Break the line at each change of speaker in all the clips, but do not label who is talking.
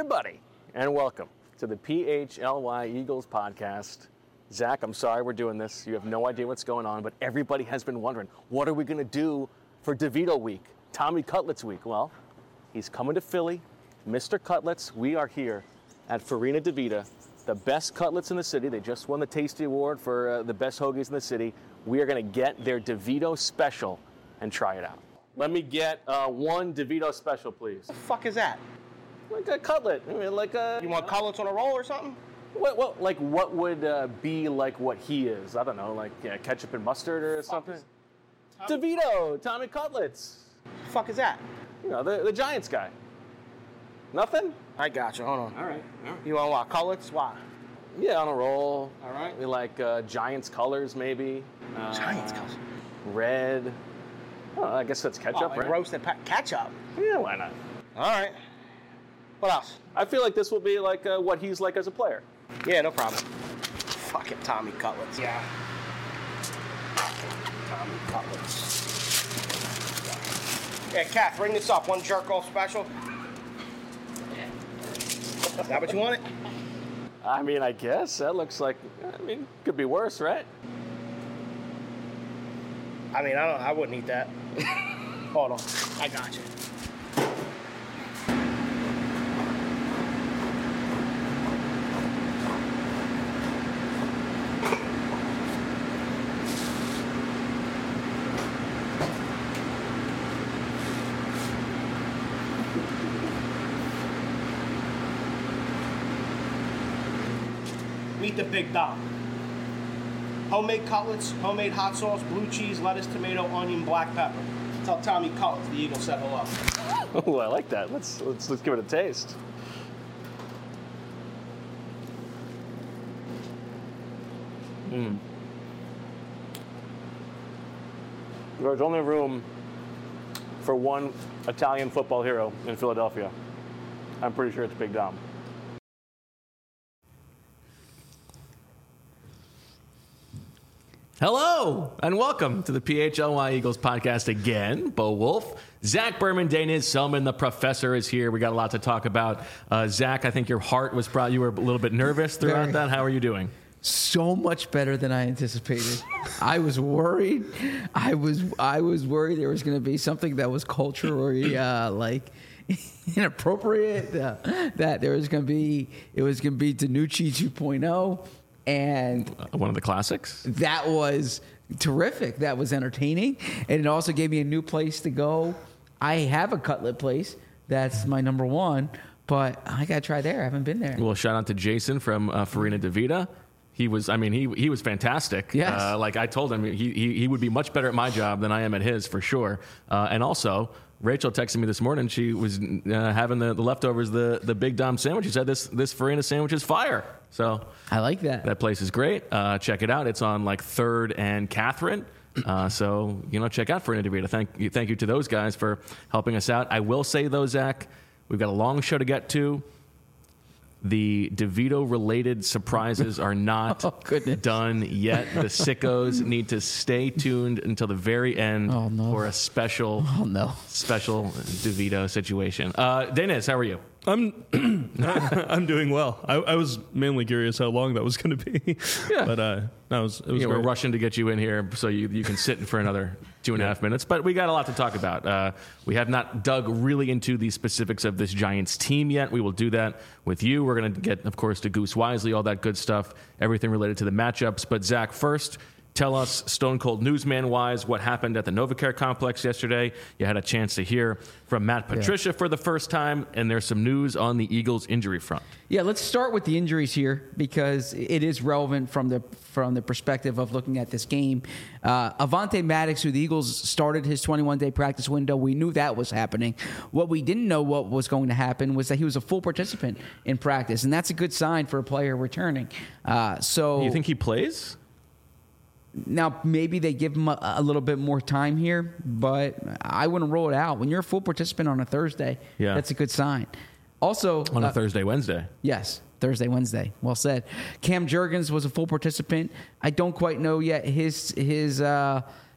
everybody, and welcome to the PHLY Eagles podcast. Zach, I'm sorry we're doing this. You have no idea what's going on, but everybody has been wondering, what are we going to do for DeVito week, Tommy Cutlets week? Well, he's coming to Philly. Mr. Cutlets, we are here at Farina DeVita, the best cutlets in the city. They just won the Tasty Award for the best hoagies in the city. We are going to get their DeVito special and try it out. Let me get one DeVito special, please.
The fuck is that?
Like a cutlet. I mean, like a.
You want cutlets on a roll or something?
What would be like what he is? I don't know, like ketchup and mustard or something. DeVito, Tommy Cutlets.
The fuck is that?
You know, the Giants guy. Nothing?
I got you. Hold on.
All right.
You want what? Cutlets? Why?
Yeah, on a roll.
All right.
We like Giants colors, maybe.
Giants colors.
Red. Oh, I guess that's ketchup,
like
right?
Roasted ketchup.
Yeah, why not?
All right. What else?
I feel like this will be like what he's like as a player.
Yeah, no problem. Fucking Tommy Cutlets. Yeah. Tommy Cutlets. Yeah, Kath, ring this up. One jerk-off special. Is that what you wanted?
I mean, I guess. That looks like, could be worse, right?
I mean, I wouldn't eat that. Hold on. I got you. Meet the Big Dom. Homemade cutlets, homemade hot sauce, blue cheese, lettuce, tomato, onion, black pepper. Tell Tommy Cutlets the Eagles said hello.
Oh, I like that. Let's give it a taste. There's only room for one Italian football hero in Philadelphia. I'm pretty sure it's Big Dom. Hello, and welcome to the PHLY Eagles podcast again. Bo Wolf, Zach Berman, Dana Selman, the professor is here. We got a lot to talk about. Zach, I think your heart was probably, you were a little bit nervous throughout that. How are you doing?
So much better than I anticipated. I was worried. I was worried there was going to be something that was culturally inappropriate. That it was going to be DiNucci 2.0. And
one of the classics.
That was terrific. That was entertaining. And it also gave me a new place to go. I have a cutlet place. That's my number one. But I got to try there. I haven't been there.
Well, shout out to Jason from Farina DeVita. He was fantastic.
Yes.
Like I told him, he would be much better at my job than I am at his, for sure. And also, Rachel texted me this morning. She was having the leftovers, the Big Dom sandwich. She said this Farina sandwich is fire. So
I like that.
That place is great. Check it out. It's on like 3rd and Catherine. So check out Farina DeVita. Thank you to those guys for helping us out. I will say though, Zach, we've got a long show to get to. The DeVito-related surprises are not done yet. The sickos need to stay tuned until the very end for a special DeVito situation. Dennis, how are you?
I'm doing well. I was mainly curious how long that was going to be.
Yeah.
But it was
we're rushing to get you in here so you can sit for another 2.5 minutes. But we got a lot to talk about. We have not dug really into the specifics of this Giants team yet. We will do that with you. We're going to get, of course, to Goose Wisely, all that good stuff, everything related to the matchups. But Zach, first, tell us, Stone Cold Newsman-wise, what happened at the NovaCare complex yesterday. You had a chance to hear from Matt Patricia for the first time, and there's some news on the Eagles injury front.
Yeah, let's start with the injuries here because it is relevant from the perspective of looking at this game. Avonte Maddox, who the Eagles started his 21-day practice window, we knew that was happening. What we didn't know what was going to happen was that he was a full participant in practice, and that's a good sign for a player returning. So
you think he plays?
Now, maybe they give him a little bit more time here, but I wouldn't rule it out. When you're a full participant on a Thursday, that's a good sign. Also,
on a Thursday, Wednesday.
Yes, Thursday, Wednesday. Well said. Cam Jurgens was a full participant. I don't quite know yet his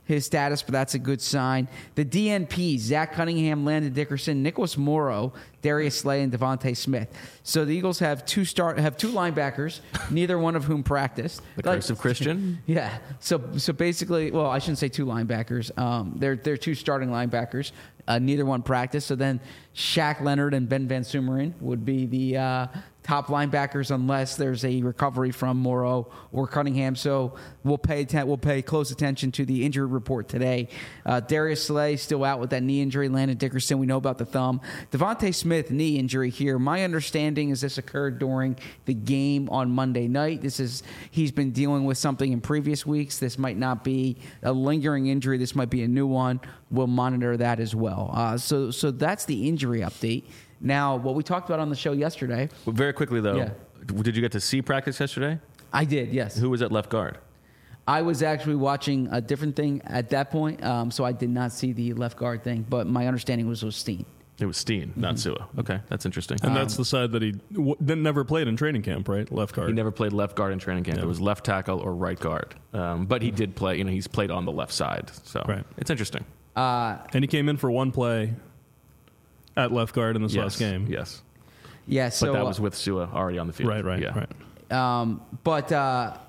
his status, but that's a good sign. The DNP, Zach Cunningham, Landon Dickerson, Nicholas Morrow, Darius Slay, and Devontae Smith. So the Eagles have two linebackers, neither one of whom practiced.
The curse of Christian?
Yeah. So basically, well, I shouldn't say two linebackers. They're two starting linebackers. Neither one practiced. So then Shaq Leonard and Ben Van Sumeren would be the top linebackers unless there's a recovery from Morrow or Cunningham. So we'll pay close attention to the injury report today. Darius Slay still out with that knee injury. Landon Dickerson, we know about the thumb. Devontae Smith, knee injury here. My understanding is this occurred during the game on Monday night. He's been dealing with something in previous weeks. This might not be a lingering injury. This might be a new one. We'll monitor that as well. So that's the injury update. Now, what we talked about on the show yesterday.
Well, very quickly, though,
Yeah.
Did you get to see practice yesterday?
I did, yes.
Who was at left guard?
I was actually watching a different thing at that point, so I did not see the left guard thing, but my understanding was it was Steen.
It was Steen, not Sua. Okay, that's interesting.
And that's the side that he never played in training camp, right? Left guard.
He never played left guard in training camp.
Yeah.
It was left tackle or right guard. But he did play. He's played on the left side, so
Right.
it's interesting.
And he came in for one play at left guard in this last game.
Yes,
Yeah, so
but that was with Sua already on the field.
Right.
Yeah.
But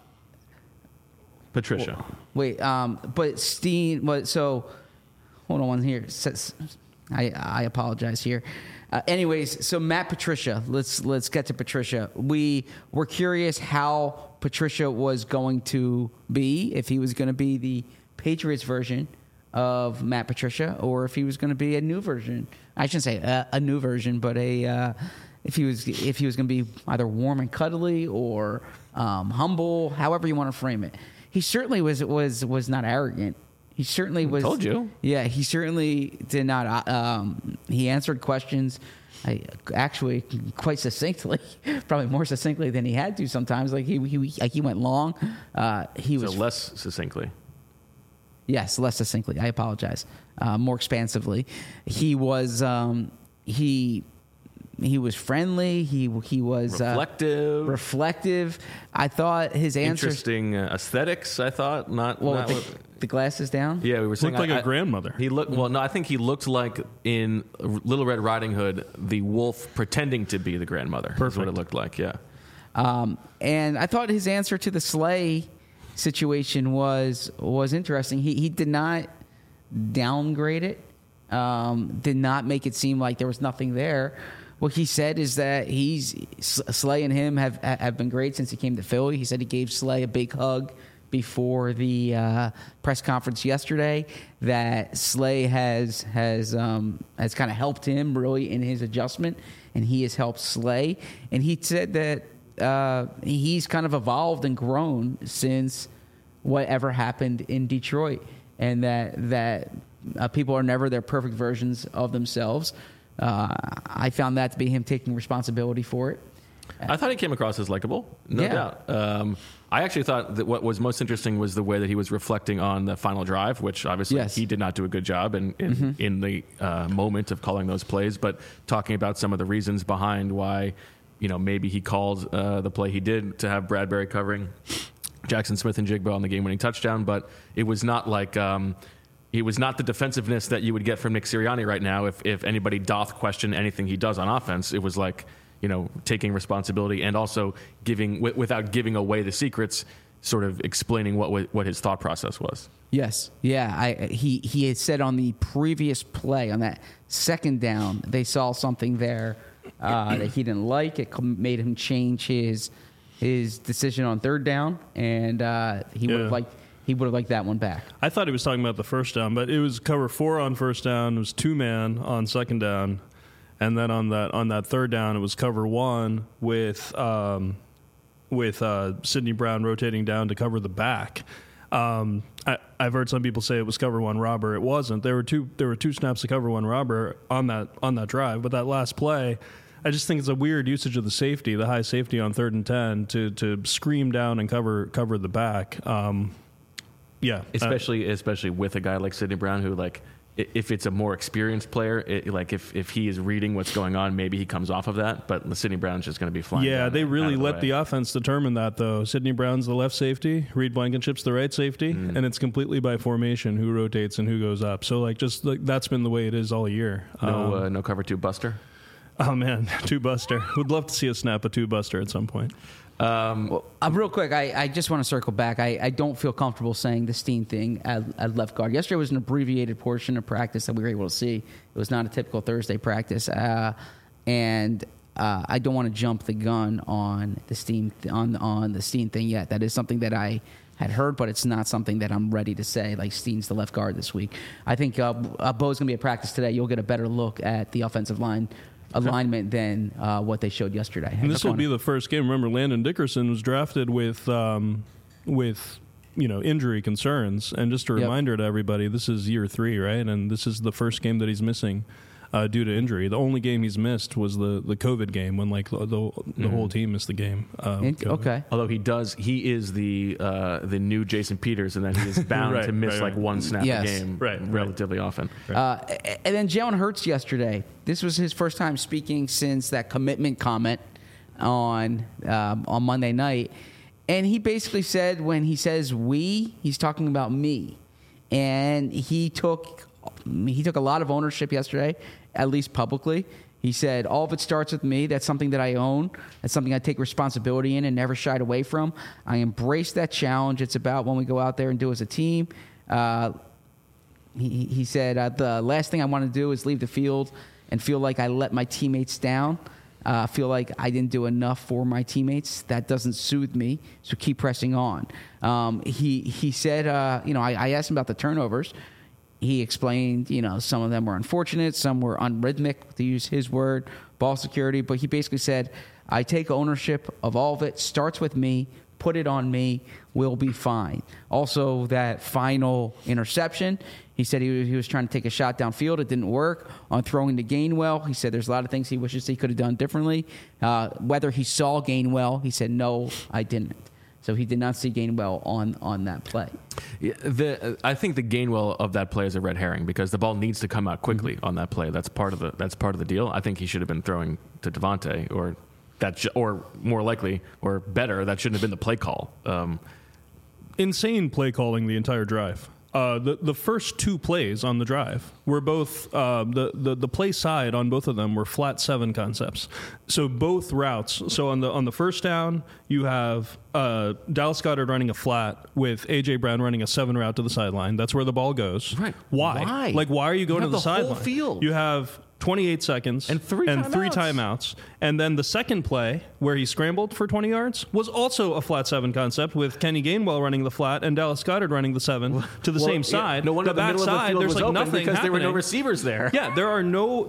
Patricia.
but Steen. So hold on one here. I apologize here. Anyways, so Matt Patricia. Let's get to Patricia. We were curious how Patricia was going to be, if he was going to be the Patriots version of Matt Patricia, or if he was going to be a new version. I shouldn't say a new version, but if he was going to be either warm and cuddly or humble, however you want to frame it. He certainly was not arrogant. He certainly was.
Told you.
Yeah, he certainly did not. He answered questions, actually quite succinctly, probably more succinctly than he had to sometimes. Like he went long. He was
less succinctly.
Yes, less succinctly. I apologize. More expansively, he was he was friendly. He was reflective. I thought his answers
Interesting aesthetics. I thought
the glasses down.
Yeah, we were saying
Looked like a grandmother.
He looked well. No, I think he looked like in Little Red Riding Hood, the wolf pretending to be the grandmother. That's what it looked like. Yeah.
And I thought his answer to the Slay situation was interesting. He did not downgrade it. Did not make it seem like there was nothing there. What he said is that Slay and him have been great since he came to Philly. He said he gave Slay a big hug before the press conference yesterday. That Slay has kind of helped him really in his adjustment, and he has helped Slay. And he said that he's kind of evolved and grown since whatever happened in Detroit, and that people are never their perfect versions of themselves. I found that to be him taking responsibility for it.
I thought he came across as likable, no doubt. I actually thought that what was most interesting was the way that he was reflecting on the final drive, which obviously he did not do a good job in the moment of calling those plays, but talking about some of the reasons behind why, maybe he called the play he did to have Bradbury covering Jackson Smith and Jigba on the game-winning touchdown, but it was not like it was not the defensiveness that you would get from Nick Sirianni right now if anybody doth question anything he does on offense. It was like, taking responsibility and also without giving away the secrets, sort of explaining what his thought process was.
Yes. Yeah. He had said on the previous play, on that second down, they saw something there that he didn't like. It made him change his decision on third down, and he would have liked that one back.
I thought he was talking about the first down, but it was cover 4 on first down. It was 2-man on second down. And then on that third down, it was cover 1 with Sidney Brown rotating down to cover the back. I've heard some people say it was cover 1 robber. It wasn't. There were two snaps to cover 1 robber on that drive. But that last play, I just think it's a weird usage of the high safety on 3rd and 10 to scream down and cover the back.
Yeah, especially with a guy like Sidney Brown who if it's a more experienced player, like if he is reading what's going on, maybe he comes off of that. But Sidney Brown's just going to be flying.
Yeah, they really let
way.
the offense determine that, though. Sidney Brown's the left safety, Reed Blankenship's the right safety, and it's completely by formation who rotates and who goes up. So that's been the way it is all year.
No cover two buster.
Oh man, two buster. Would love to see us snap a two buster at some point.
Real quick, I just want to circle back. I don't feel comfortable saying the Steen thing at left guard. Yesterday was an abbreviated portion of practice that we were able to see. It was not a typical Thursday practice, and I don't want to jump the gun on the Steen on the Steen thing yet. That is something that I had heard, but it's not something that I'm ready to say. Like Steen's the left guard this week. I think Bo's going to be at practice today. You'll get a better look at the offensive line alignment than what they showed yesterday.
And this will be the first game. Remember, Landon Dickerson was drafted with injury concerns. And just a reminder to everybody, this is year 3, right? And this is the first game that he's missing due to injury. The only game he's missed was the COVID game when the whole team missed the game.
Okay.
Although he is the new Jason Peters, and then he is bound to miss one snap a game relatively often.
And then Jalen Hurts yesterday. This was his first time speaking since that commitment comment on Monday night, and he basically said when he says "we," he's talking about me, and he took a lot of ownership yesterday, at least publicly. He said, all of it starts with me. That's something that I own. That's something I take responsibility in and never shied away from. I embrace that challenge. It's about when we go out there and do as a team. He said, the last thing I want to do is leave the field and feel like I let my teammates down. Feel like I didn't do enough for my teammates. That doesn't soothe me, so keep pressing on. He said, I asked him about the turnovers. He explained, some of them were unfortunate, some were unrhythmic, to use his word, ball security. But he basically said, I take ownership of all of it. Starts with me. Put it on me. We'll be fine. Also, that final interception, he said he was trying to take a shot downfield. It didn't work. On throwing to Gainwell, he said there's a lot of things he wishes he could have done differently. Whether he saw Gainwell, he said, no, I didn't. So he did not see Gainwell on that play.
Yeah, I think the Gainwell of that play is a red herring because the ball needs to come out quickly on that play. That's part of the deal. I think he should have been throwing to Devontae, or more likely or better, that shouldn't have been the play call.
Insane play calling the entire drive. The first 2 plays on the drive were both the play side on both of them were flat 7 concepts. So both routes. So on the first down, you have Dallas Goedert running a flat with AJ Brown running a 7 route to the sideline. That's where the ball goes.
Right.
Why? Why are you going to the sideline?
Whole field.
You have 28 seconds
and three
timeouts. And then the second play, where he scrambled for 20 yards, was also a flat 7 concept with Kenny Gainwell running the flat and Dallas Goedert running the 7 to the same side.
No wonder the middle of the field was open
nothing
because
happening.
there were no receivers there.
Yeah, there are no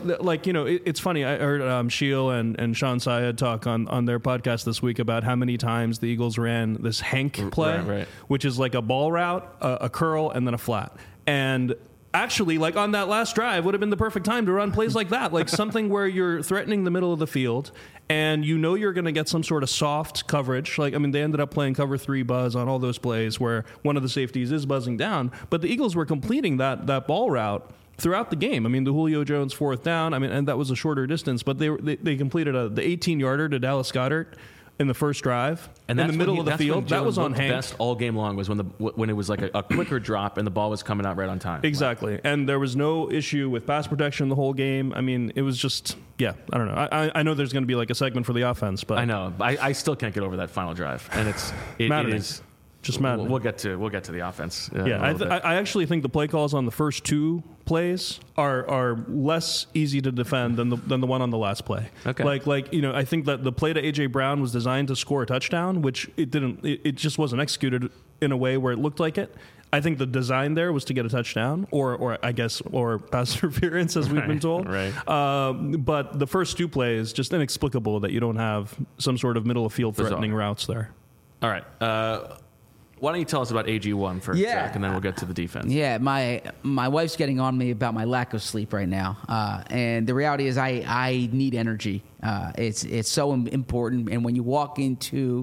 it's funny. I heard Sheil and Sean Syed talk on their podcast this week about how many times the Eagles ran this Hank play, which is like a ball route, a curl, and then a flat. And actually, on that last drive would have been the perfect time to run plays like that, like something where you're threatening the middle of the field and you're going to get some sort of soft coverage. They ended up playing cover 3 buzz on all those plays where one of the safeties is buzzing down, but the Eagles were completing that ball route throughout the game. The Julio Jones 4th down, and that was a shorter distance, but they completed the 18-yarder to Dallas Goedert in the first drive, and in the middle of the field. That was on Hank.
Best all game long was when it was like a quicker drop and the ball was coming out right on time.
Exactly, and there was no issue with pass protection the whole game. It was just, I don't know. I know there's going to be like a segment for the offense, but
I know. I still can't get over that final drive, and it is
just maddening.
We'll get to the offense.
I actually think the play calls on the first 2 plays are less easy to defend than the one on the last play.
Okay.
I think that the play to AJ Brown was designed to score a touchdown, which it didn't. It just wasn't executed in a way where it looked like it. I think the design there was to get a touchdown, or pass interference, as we've been told.
Right.
But the first 2 plays, just inexplicable that you don't have some sort of middle of field threatening routes there.
All right. Why don't you tell us about AG1 first, Zach, and then we'll get to the defense.
Yeah, my wife's getting on me about my lack of sleep right now, and the reality is I need energy. It's so important, and when you walk into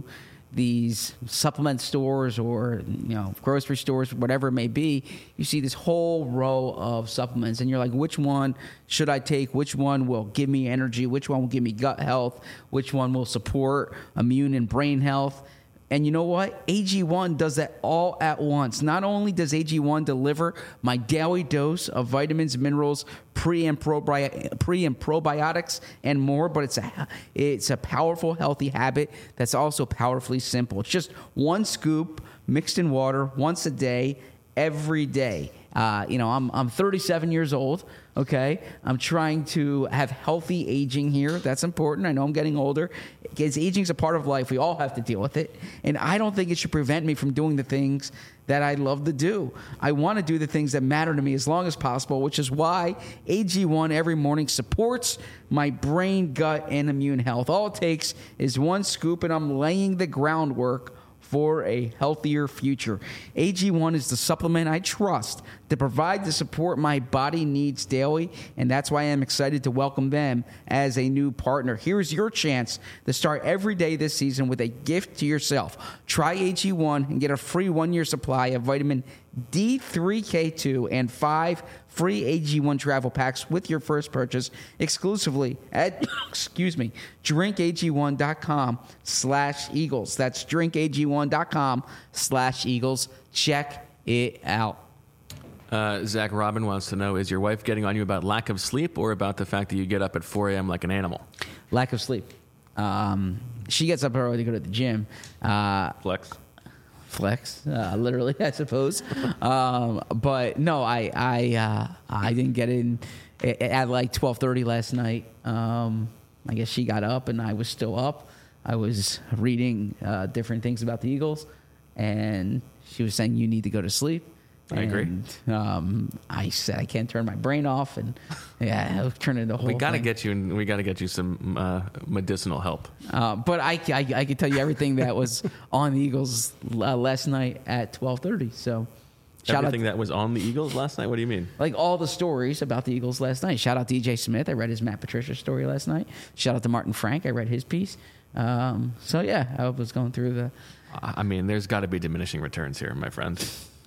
these supplement stores or grocery stores, whatever it may be, you see this whole row of supplements, and you're like, which one should I take? Which one will give me energy? Which one will give me gut health? Which one will support immune and brain health? And you know what? AG1 does that all at once. Not only does AG1 deliver my daily dose of vitamins, minerals, pre and probiotics, and more, but it's a powerful, healthy habit that's also powerfully simple. It's just one scoop mixed in water once a day, every day. I'm 37 years old. Okay, I'm trying to have healthy aging here. That's important. I know I'm getting older. Because aging's a part of life. We all have to deal with it. And I don't think it should prevent me from doing the things that I love to do. I want to do the things that matter to me as long as possible, which is why AG1 every morning supports my brain, gut, and immune health. All it takes is one scoop, and I'm laying the groundwork for a healthier future. AG1 is the supplement I trust to provide the support my body needs daily, and that's why I'm excited to welcome them as a new partner. Here's your chance to start every day this season with a gift to yourself. Try AG1 and get a free 1-year supply of vitamin D3K2 and 5 free AG1 travel packs with your first purchase exclusively at, drinkag1.com/Eagles. That's drinkag1.com/Eagles. Check it out.
Zach Robin wants to know, is your wife getting on you about lack of sleep or about the fact that you get up at 4 a.m. like an animal?
Lack of sleep. She gets up early to go to the gym. Flex, literally, I suppose. But no, I didn't get in at like 12:30 last night. I guess she got up and I was still up. I was reading different things about the Eagles, and she was saying you need to go to sleep.
I agree.
I said I can't turn my brain off, and I'll turn into the whole.
We got to
thing.
get you some medicinal help.
But I can tell you everything that was on the Eagles last night at 12:30. So.
Everything that was on the Eagles last night? What do you mean?
Like all the stories about the Eagles last night. Shout out DJ Smith. I read his Matt Patricia story last night. Shout out to Martin Frank. I read his piece. I was going through the.
I mean, there's got to be diminishing returns here, my friend.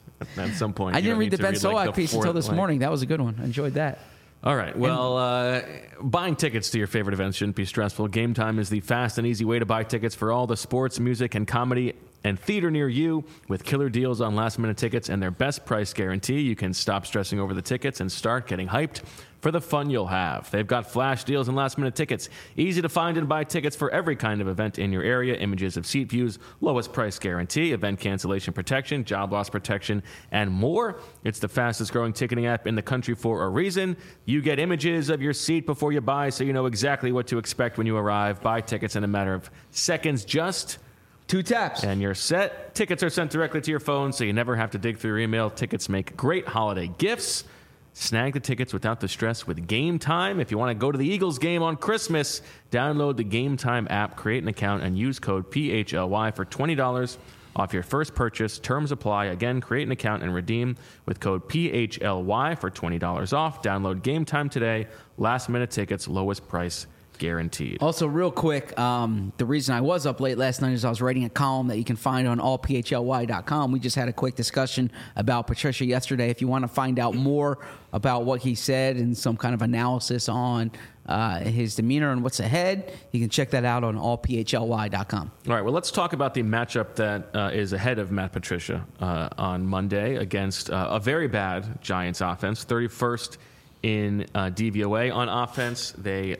At some point,
I didn't read the Ben Solak piece until this morning. That was a good one. I enjoyed that.
All right. Well, buying tickets to your favorite events shouldn't be stressful. Game Time is the fast and easy way to buy tickets for all the sports, music, and comedy and theater near you. With killer deals on last-minute tickets and their best price guarantee, you can stop stressing over the tickets and start getting hyped for the fun you'll have. They've got flash deals and last-minute tickets. Easy to find and buy tickets for every kind of event in your area. Images of seat views, lowest price guarantee, event cancellation protection, job loss protection, and more. It's the fastest-growing ticketing app in the country for a reason. You get images of your seat before you buy, so you know exactly what to expect when you arrive. Buy tickets in a matter of seconds, just
2 taps.
And you're set. Tickets are sent directly to your phone, so you never have to dig through your email. Tickets make great holiday gifts. Snag the tickets without the stress with Game Time. If you want to go to the Eagles game on Christmas, download the Game Time app, create an account, and use code PHLY for $20 off your first purchase. Terms apply. Again, create an account and redeem with code PHLY for $20 off. Download Game Time today. Last-minute tickets, lowest price guaranteed.
Also, real quick, the reason I was up late last night is I was writing a column that you can find on allphly.com. We just had a quick discussion about Patricia yesterday. If you want to find out more about what he said and some kind of analysis on his demeanor and what's ahead, you can check that out on allphly.com.
All right, well, let's talk about the matchup that is ahead of Matt Patricia on Monday against a very bad Giants offense, 31st in DVOA on offense. They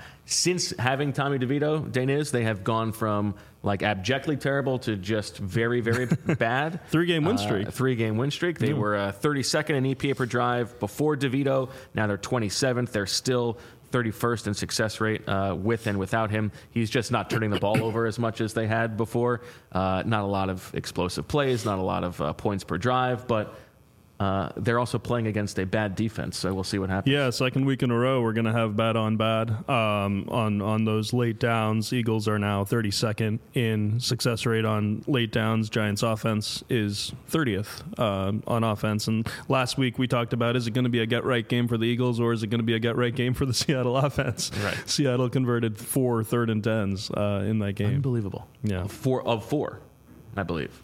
since having Tommy DeVito, Daniz, they have gone from like abjectly terrible to just very, very bad.
3-game win streak.
3-game win streak. They were 32nd in EPA per drive before DeVito. Now they're 27th. They're still 31st in success rate with and without him. He's just not turning the ball over as much as they had before. Not a lot of explosive plays, not a lot of points per drive, but they're also playing against a bad defense, so we'll see what happens.
Yeah, second week in a row, we're going to have bad on bad on those late downs. Eagles are now 32nd in success rate on late downs. Giants offense is 30th on offense. And last week we talked about, is it going to be a get-right game for the Eagles, or is it going to be a get-right game for the Seattle offense?
Right.
Seattle converted 4 third and 10s in that game.
Unbelievable.
Yeah.
4 of 4, I believe.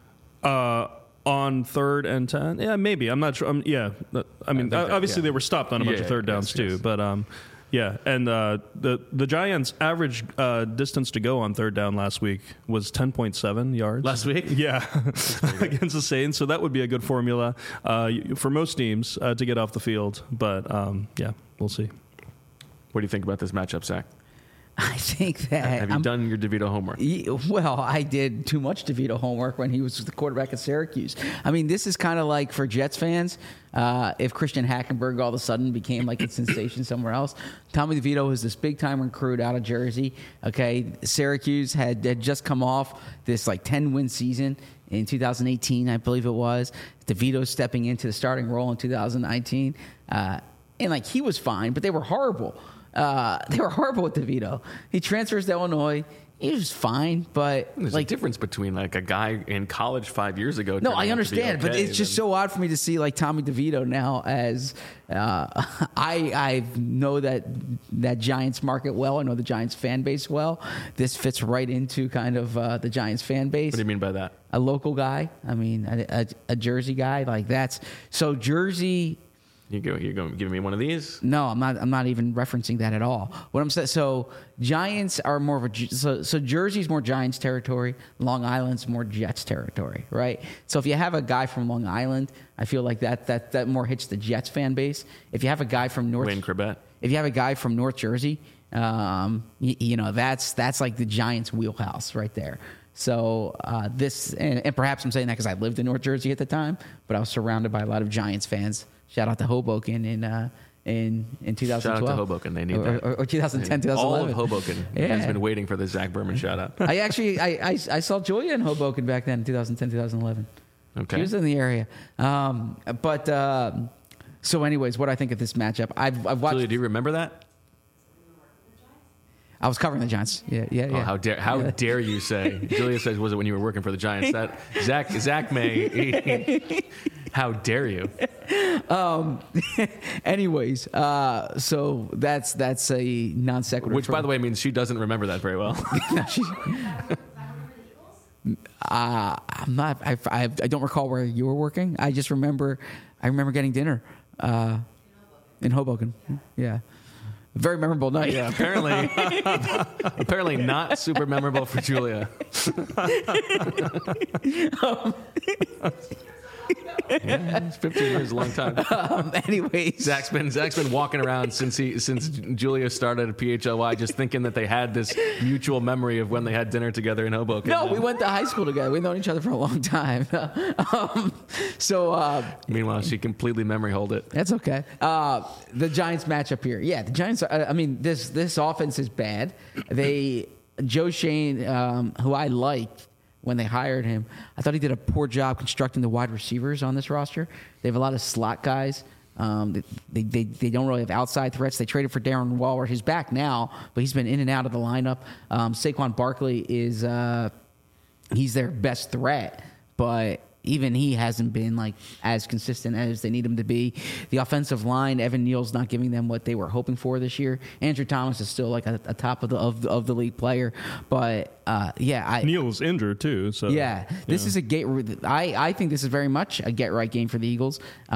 On 3rd and 10, yeah, maybe. I'm not sure. I mean, obviously they were stopped on a bunch of third downs too. Yes. But yeah, and the Giants' average distance to go on third down last week was 10.7 yards.
Last week,
yeah, against the Saints. So that would be a good formula for most teams to get off the field. But yeah, we'll see.
What do you think about this matchup, Zach?
I think that...
Have you done your DeVito homework?
Well, I did too much DeVito homework when he was the quarterback at Syracuse. I mean, this is kind of like for Jets fans, if Christian Hackenberg all of a sudden became like a sensation somewhere else. Tommy DeVito was this big-time recruit out of Jersey. Okay, Syracuse had just come off this like 10-win season in 2018, I believe it was. DeVito stepping into the starting role in 2019. And like he was fine, but they were horrible. They were horrible with DeVito. He transfers to Illinois. He was fine, but
there's a difference between like a guy in college 5 years ago.
No, I understand, but it's just so odd for me to see like Tommy DeVito now as I know that Giants market well. I know the Giants fan base well. This fits right into kind of the Giants fan base.
What do you mean by that?
A local guy. I mean, a Jersey guy. Like that's so Jersey.
You're going giving me one of these?
No, I'm not even referencing that at all. What I'm saying, so Giants are more of so Jersey's more Giants territory, Long Island's more Jets territory, right? So if you have a guy from Long Island, I feel like that more hits the Jets fan base. If you have a guy from
Wayne Corbett.
If you have a guy from North Jersey, you know that's like the Giants wheelhouse right there. So this and perhaps I'm saying that because I lived in North Jersey at the time, but I was surrounded by a lot of Giants fans. Shout out to Hoboken in 2012.
Shout out to Hoboken. They need that.
Or 2010, 2011.
All of Hoboken has been waiting for the Zach Berman shout out.
I saw Julia in Hoboken back then in 2010, 2011.
Okay.
She was in the area. So anyways, what I think of this matchup, I've watched.
Julia, do you remember that?
I was covering the Giants. Yeah.
Oh, how dare you say? Julia says, was it when you were working for the Giants? That Zach may. How dare you?
Anyways, so that's a non sequitur.
Which, by the way, means she doesn't remember that very well.
I'm not. I don't recall where you were working. I remember getting dinner in Hoboken. Yeah. Very memorable night.
Yeah, apparently not super memorable for Julia. Yeah, it's 15 years is a long time.
Anyways,
Zach's been walking around since Julia started at PHLY, just thinking that they had this mutual memory of when they had dinner together in Hoboken.
No, we went to high school together. We've known each other for a long time.
Meanwhile, she completely memory holed it.
That's okay. The Giants matchup here. Yeah, the Giants. I mean, this offense is bad. Joe Shane, who I liked when they hired him, I thought he did a poor job constructing the wide receivers on this roster. They have a lot of slot guys. They don't really have outside threats. They traded for Darren Waller. He's back now, but he's been in and out of the lineup. Saquon Barkley is he's their best threat, but even he hasn't been like as consistent as they need him to be. The offensive line, Evan Neal's not giving them what they were hoping for this year. Andrew Thomas is still like a top of the league player, but
Neal's injured too. So
this is a I think this is very much a get right game for the Eagles.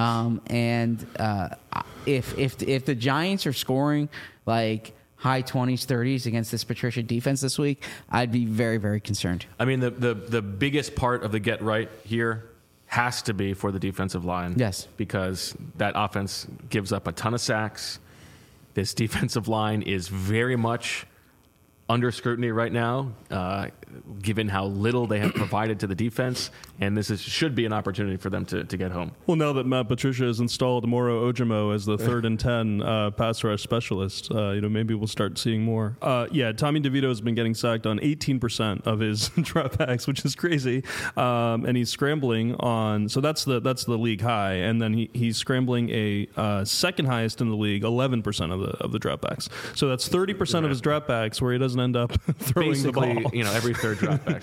If the Giants are scoring like high 20s, 30s against this Patricia defense this week, I'd be very, very concerned.
I mean, the biggest part of the get right here has to be for the defensive line.
Yes.
Because that offense gives up a ton of sacks. This defensive line is very much under scrutiny right now, given how little they have provided to the defense, and should be an opportunity for them to get home.
Well, now that Matt Patricia has installed Moro Ojimo as the 3rd and 10 pass rush specialist, maybe we'll start seeing more. Tommy DeVito has been getting sacked on 18% of his dropbacks, which is crazy, and he's scrambling on. So that's the league high, and then he's scrambling a second highest in the league, 11% of the dropbacks. So that's 30% of his dropbacks where he doesn't end up throwing
basically,
the ball.
Every third drop back,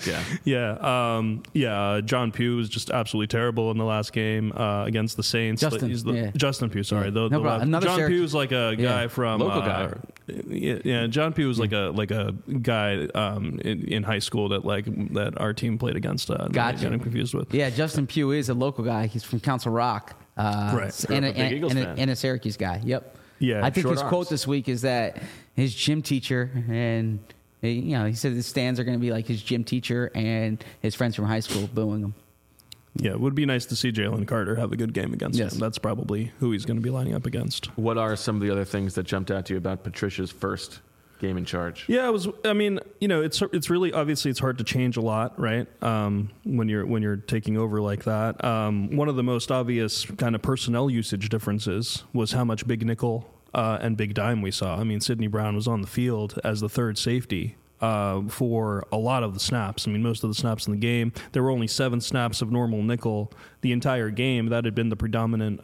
John Pugh was just absolutely terrible in the last game against the Saints. Justin Pugh, sorry. John Pugh is like a guy from
local guy.
John Pugh was like a guy in high school that our team played against.
Gotcha.
Got him confused with.
Yeah, Justin Pugh is a local guy. He's from Council Rock.
Right.
And a Syracuse guy. Yep.
Yeah,
I think his
arms.
quote this week is that his gym teacher and he said the stands are going to be like his gym teacher and his friends from high school booing him.
Yeah, it would be nice to see Jalen Carter have a good game against him. That's probably who he's going to be lining up against.
What are some of the other things that jumped out to you about Patricia's first game in charge?
Yeah, it's really obviously it's hard to change a lot, right? When you're taking over like that. One of the most obvious kind of personnel usage differences was how much big nickel and big dime we saw. I mean, Sidney Brown was on the field as the third safety for a lot of the snaps. I mean, most of the snaps in the game. There were only 7 snaps of normal nickel the entire game. That had been the predominant,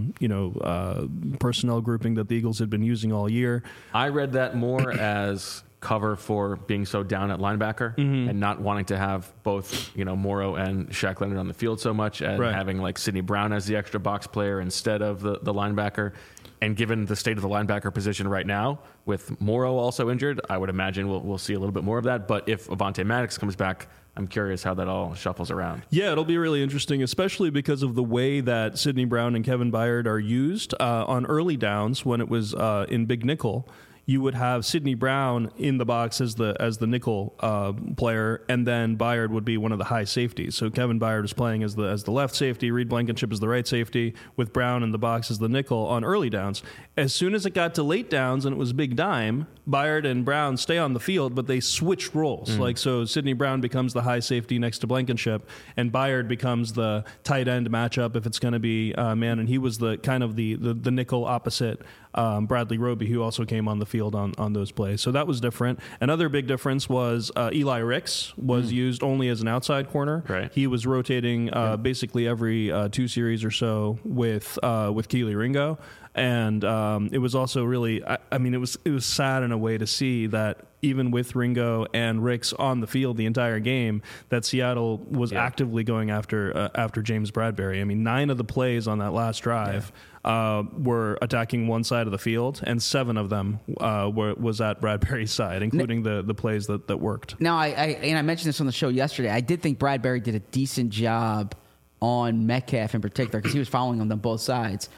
personnel grouping that the Eagles had been using all year.
I read that more as cover for being so down at linebacker and not wanting to have both, Morrow and Shaq Leonard on the field so much, and having like Sidney Brown as the extra box player instead of the linebacker. And given the state of the linebacker position right now, with Morrow also injured, I would imagine we'll see a little bit more of that. But if Avonte Maddox comes back, I'm curious how that all shuffles around.
Yeah, it'll be really interesting, especially because of the way that Sidney Brown and Kevin Byard are used on early downs when it was in big nickel. You would have Sidney Brown in the box as the nickel player, and then Byard would be one of the high safeties. So Kevin Byard was playing as the left safety, Reed Blankenship as the right safety, with Brown in the box as the nickel on early downs. As soon as it got to late downs and it was big dime, Byard and Brown stay on the field, but they switch roles. So Sidney Brown becomes the high safety next to Blankenship, and Byard becomes the tight end matchup if it's going to be man. And he was the kind of the nickel opposite Bradley Roby, who also came on the field on those plays. So that was different. Another big difference was Eli Ricks was used only as an outside corner.
Right.
He was rotating basically every 2 series or so with Keely Ringo. And it was also really, it was sad in a way to see that even with Ringo and Ricks on the field the entire game, that Seattle was actively going after James Bradberry. I mean, 9 of the plays on that last drive were attacking one side of the field, and 7 of them was at Bradberry's side, including the plays that worked.
Now, I mentioned this on the show yesterday. I did think Bradberry did a decent job on Metcalf in particular because he was following them on both sides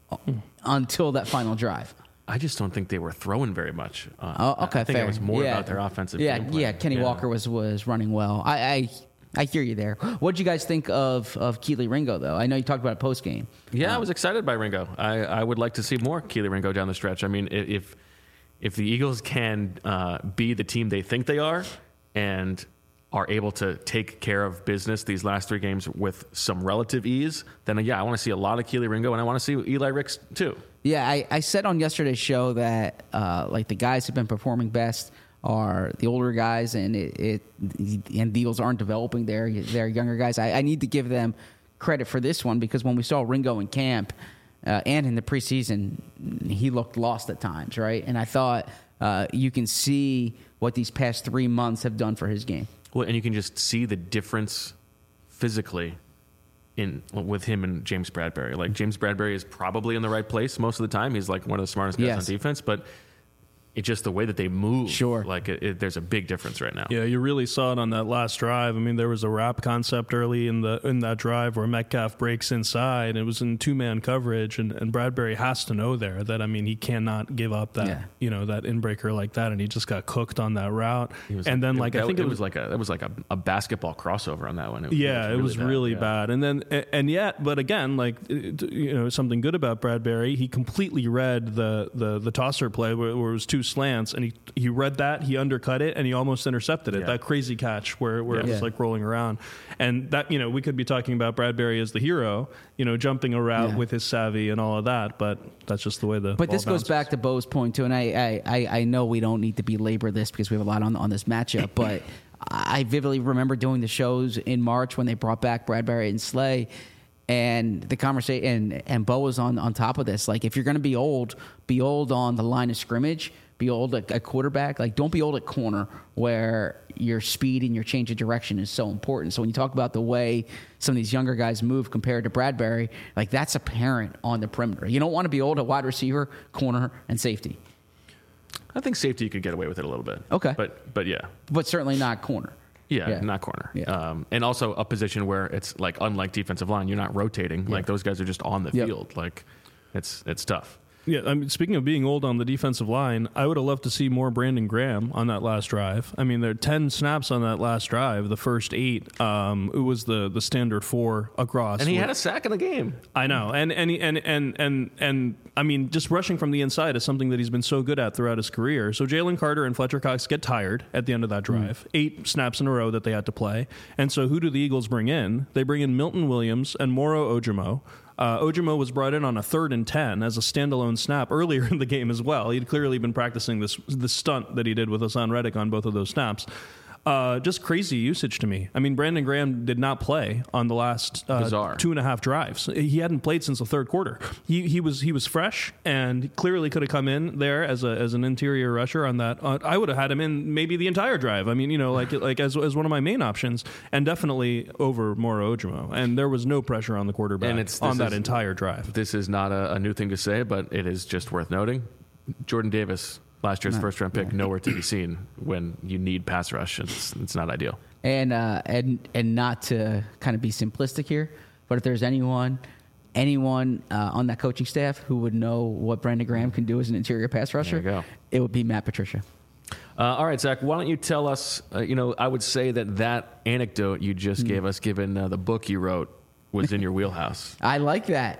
until that final drive.
I just don't think they were throwing very much.
Okay,
I think
fair.
it was more about their offensive game plan.
Yeah, Kenny Walker was running well. I hear you there. What did you guys think of Keely Ringo, though? I know you talked about it post-game.
Yeah, I was excited by Ringo. I would like to see more Keely Ringo down the stretch. I mean, if the Eagles can be the team they think they are and are able to take care of business these last 3 games with some relative ease, then I want to see a lot of Keely Ringo, and I want to see Eli Ricks too. Yeah,
I said on yesterday's show that the guys who've been performing best are the older guys, and the Eagles aren't developing their younger guys. I need to give them credit for this one because when we saw Ringo in camp and in the preseason, he looked lost at times, right? And I thought you can see what these past 3 months have done for his game.
Well, and you can just see the difference physically with him and James Bradberry. Like, James Bradberry is probably in the right place most of the time. He's like one of the smartest guys on defense, but it's just the way that they move.
Sure.
Like, there's a big difference right now.
Yeah, you really saw it on that last drive. I mean, there was a wrap concept early in that drive where Metcalf breaks inside. It was in 2-man coverage, and Bradberry has to know there that, he cannot give up that, that inbreaker like that, and he just got cooked on that route. And then, I think it was like a basketball crossover on that one. It was really bad. And then, but again, something good about Bradberry, he completely read the tosser play where it was 2 two slants, and he read that, he undercut it, and he almost intercepted it.
Yeah.
That crazy catch where it was like rolling around. And that, we could be talking about Bradbury as the hero, jumping a route with his savvy and all of that, but that's just the way the
But
ball
this goes
bounces.
back to Bo's point too, and I know we don't need to belabor this because we have a lot on this matchup, but I vividly remember doing the shows in March when they brought back Bradbury and Slay, and the conversation, and Bo was on top of this. Like, if you're going to be old on the line of scrimmage, be old at quarterback. Like, don't be old at corner where your speed and your change of direction is so important. So when you talk about the way some of these younger guys move compared to Bradbury, like, that's apparent on the perimeter. You don't want to be old at wide receiver, corner, and safety.
I think safety you could get away with it a little bit.
Okay.
But yeah.
But certainly not corner.
Yeah, not corner.
Yeah.
And also a position where it's like, unlike defensive line, you're not rotating. Like, those guys are just on the field. Like, it's tough.
Yeah, I mean, speaking of being old on the defensive line, I would have loved to see more Brandon Graham on that last drive. I mean, there are 10 snaps on that last drive. The first 8, it was the standard 4 across.
And he had a sack in the game.
I know, and I mean, just rushing from the inside is something that he's been so good at throughout his career. So Jalen Carter and Fletcher Cox get tired at the end of that drive. 8 snaps in a row that they had to play, and so who do the Eagles bring in? They bring in Milton Williams and Moro Ojomo. Ojomo was brought in on a 3rd and 10 as a standalone snap earlier in the game as well. He'd clearly been practicing this stunt that he did with Hassan Reddick on both of those snaps. Just crazy usage to me. I mean, Brandon Graham did not play on the last 2.5 drives. He hadn't played since the third quarter. He was fresh and clearly could have come in there as an interior rusher on that. I would have had him in maybe the entire drive. I mean, like as one of my main options, and definitely over Moro Ojomo. And there was no pressure on the quarterback on that entire drive.
This is not a new thing to say, but it is just worth noting. Jordan Davis, last year's first-round pick, nowhere to be seen when you need pass rush. It's not ideal.
And not to kind of be simplistic here, but if there's anyone on that coaching staff who would know what Brandon Graham can do as an interior pass rusher,
There you go.
it would be Matt Patricia.
All right, Zach, why don't you tell us, I would say that anecdote you just gave us, given the book you wrote, was in your wheelhouse.
I like that.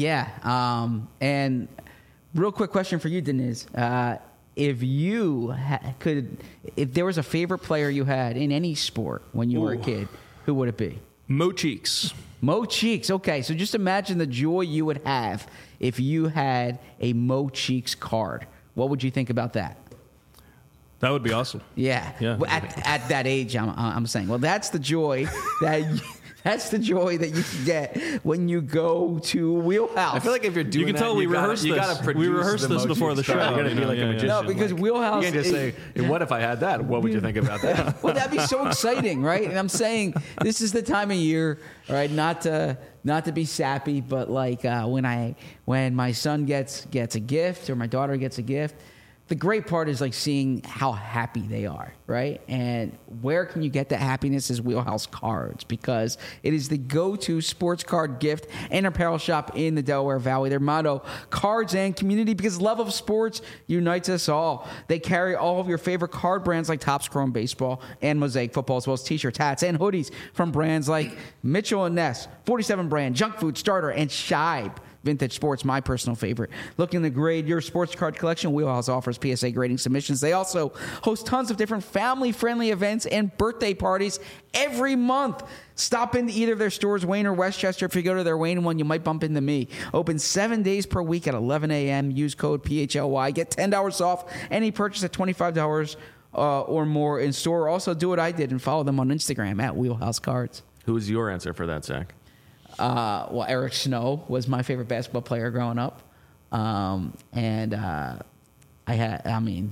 And real quick question for you, Deniz. If you if there was a favorite player you had in any sport when you were a kid, who would it be?
Mo Cheeks.
Mo Cheeks. Okay, so just imagine the joy you would have if you had a Mo Cheeks card. What would you think about that?
That would be awesome.
Yeah. Well, at that age, I'm saying. Well, that's the joy that's the joy that you can get when you go to Wheelhouse.
I feel like if you're doing
You can tell we rehearsed this. We rehearsed this before the show.
You got to be like a magician.
No, because Wheelhouse.
You can't just say, "What if I had that? What would you think about that?"
Well, that'd be so exciting, right? And I'm saying this is the time of year, right? Not to be sappy, but like when my son gets a gift or my daughter gets a gift, the great part is like seeing how happy they are, right? And where can you get that happiness is Wheelhouse Cards, because it is the go-to sports card gift and apparel shop in the Delaware Valley. Their motto, cards and community, because love of sports unites us all. They carry all of your favorite card brands like Topps Chrome Baseball and Mosaic Football, as well as t-shirts, hats, and hoodies from brands like Mitchell & Ness, 47 Brand, Junk Food, Starter, and Shibe. Vintage Sports, my personal favorite. Looking to grade your sports card collection, Wheelhouse offers PSA grading submissions. They also host tons of different family-friendly events and birthday parties every month. Stop into either of their stores, Wayne or Westchester. If you go to their Wayne one, you might bump into me. Open 7 days per week at 11 a.m. Use code PHLY. Get $10 off any purchase at $25 or more in store. Also, do what I did and follow them on Instagram at Wheelhouse Cards.
Who's your answer for that, Zach?
Well, Eric Snow was my favorite basketball player growing up. I had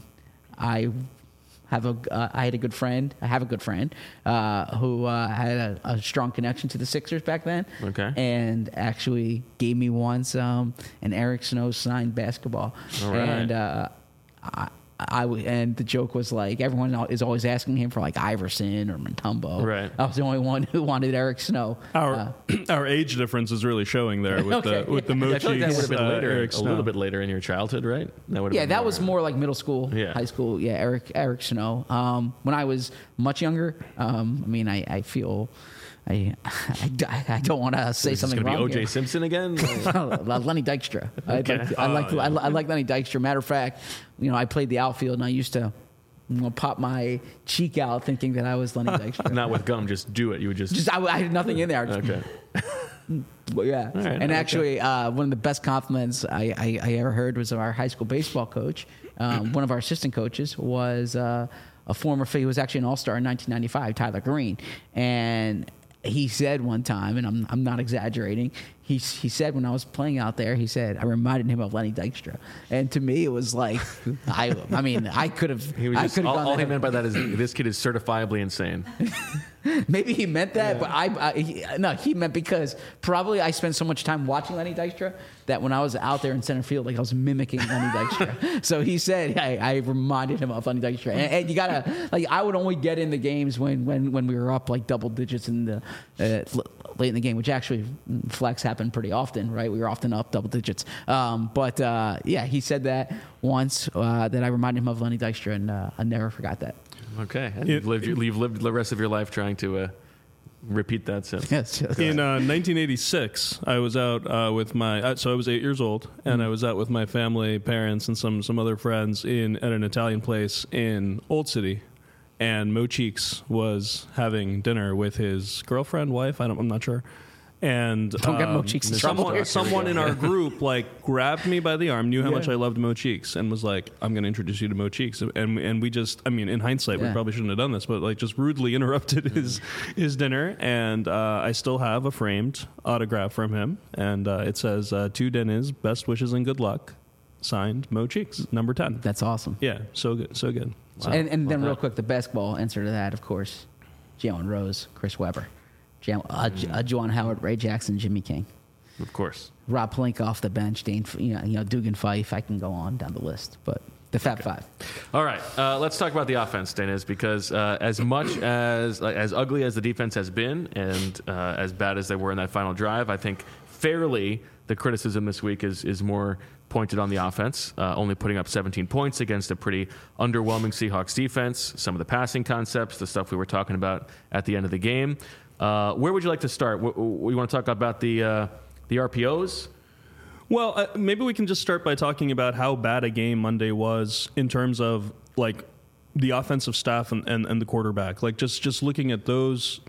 a good friend. I have a good friend who had a strong connection to the Sixers back then.
Okay.
And actually gave me once an Eric Snow signed basketball.
All right.
And and the joke was like everyone is always asking him for like Iverson or Mutombo.
Right.
I was the only one who wanted Eric Snow.
Our age difference is really showing there with the Mo
I feel like that would have
Cheeks,
been later,
Eric
a
Snow.
little bit later in your childhood, right? That would have been
That
more-
was more like middle school,
Yeah.
high school. Yeah, Eric Snow. When I was much younger. I mean, I feel I don't want to say something
It's
wrong.
going to be
here.
O.J. Simpson again?
Lenny Dykstra. I like Lenny Dykstra. Matter of fact, I played the outfield and I used to pop my cheek out thinking that I was Lenny Dykstra.
Not with gum, just do it. You would just
I had nothing in there.
okay.
But yeah,
right,
and actually, one of the best compliments I ever heard was of our high school baseball coach. One of our assistant coaches was a former. He was actually an all-star in 1995, Tyler Green, and he said one time, and I'm not exaggerating. He said when I was playing out there, he said I reminded him of Lenny Dykstra, and to me it was like I mean I could have.
All he meant by that is this kid is certifiably insane.
Maybe he meant that, but he meant because probably I spent so much time watching Lenny Dykstra that when I was out there in center field, like I was mimicking Lenny Dykstra. So he said I reminded him of Lenny Dykstra, and you gotta I would only get in the games when we were up like double digits in the late in the game, which actually flex happened pretty often, right? We were often up double digits, but he said that once that I reminded him of Lenny Dykstra, and I never forgot that.
Okay, and you've lived the rest of your life trying to repeat that since.
Yes.
In 1986, I was out with my. So I was 8 years old, and I was out with my family, parents, and some other friends at an Italian place in Old City, and Mo Cheeks was having dinner with his girlfriend, wife. I'm not sure. And
Don't get Mo Cheeks in trouble.
someone in our group grabbed me by the arm, knew how much I loved Mo Cheeks, and was like, "I'm going to introduce you to Mo Cheeks." And we just, I mean, in hindsight, we probably shouldn't have done this, but just rudely interrupted his dinner. And I still have a framed autograph from him, and it says, "To Dennis, best wishes and good luck." Signed, Mo Cheeks, number 10.
That's awesome.
Yeah, so good, so good.
Wow. And then real quick, the basketball answer to that, of course, Jalen Rose, Chris Webber. Juwan Howard, Ray Jackson, Jimmy King.
Of course.
Rob Pelinka off the bench, Dugan Fife. I can go on down the list, but the Fab Five.
All right, let's talk about the offense, Dennis, because as much as ugly as the defense has been and as bad as they were in that final drive, I think fairly the criticism this week is more pointed on the offense, only putting up 17 points against a pretty underwhelming Seahawks defense, some of the passing concepts, the stuff we were talking about at the end of the game. Where would you like to start? We want to talk about the RPOs?
Well, maybe we can just start by talking about how bad a game Monday was in terms of the offensive staff and the quarterback. Just looking at those,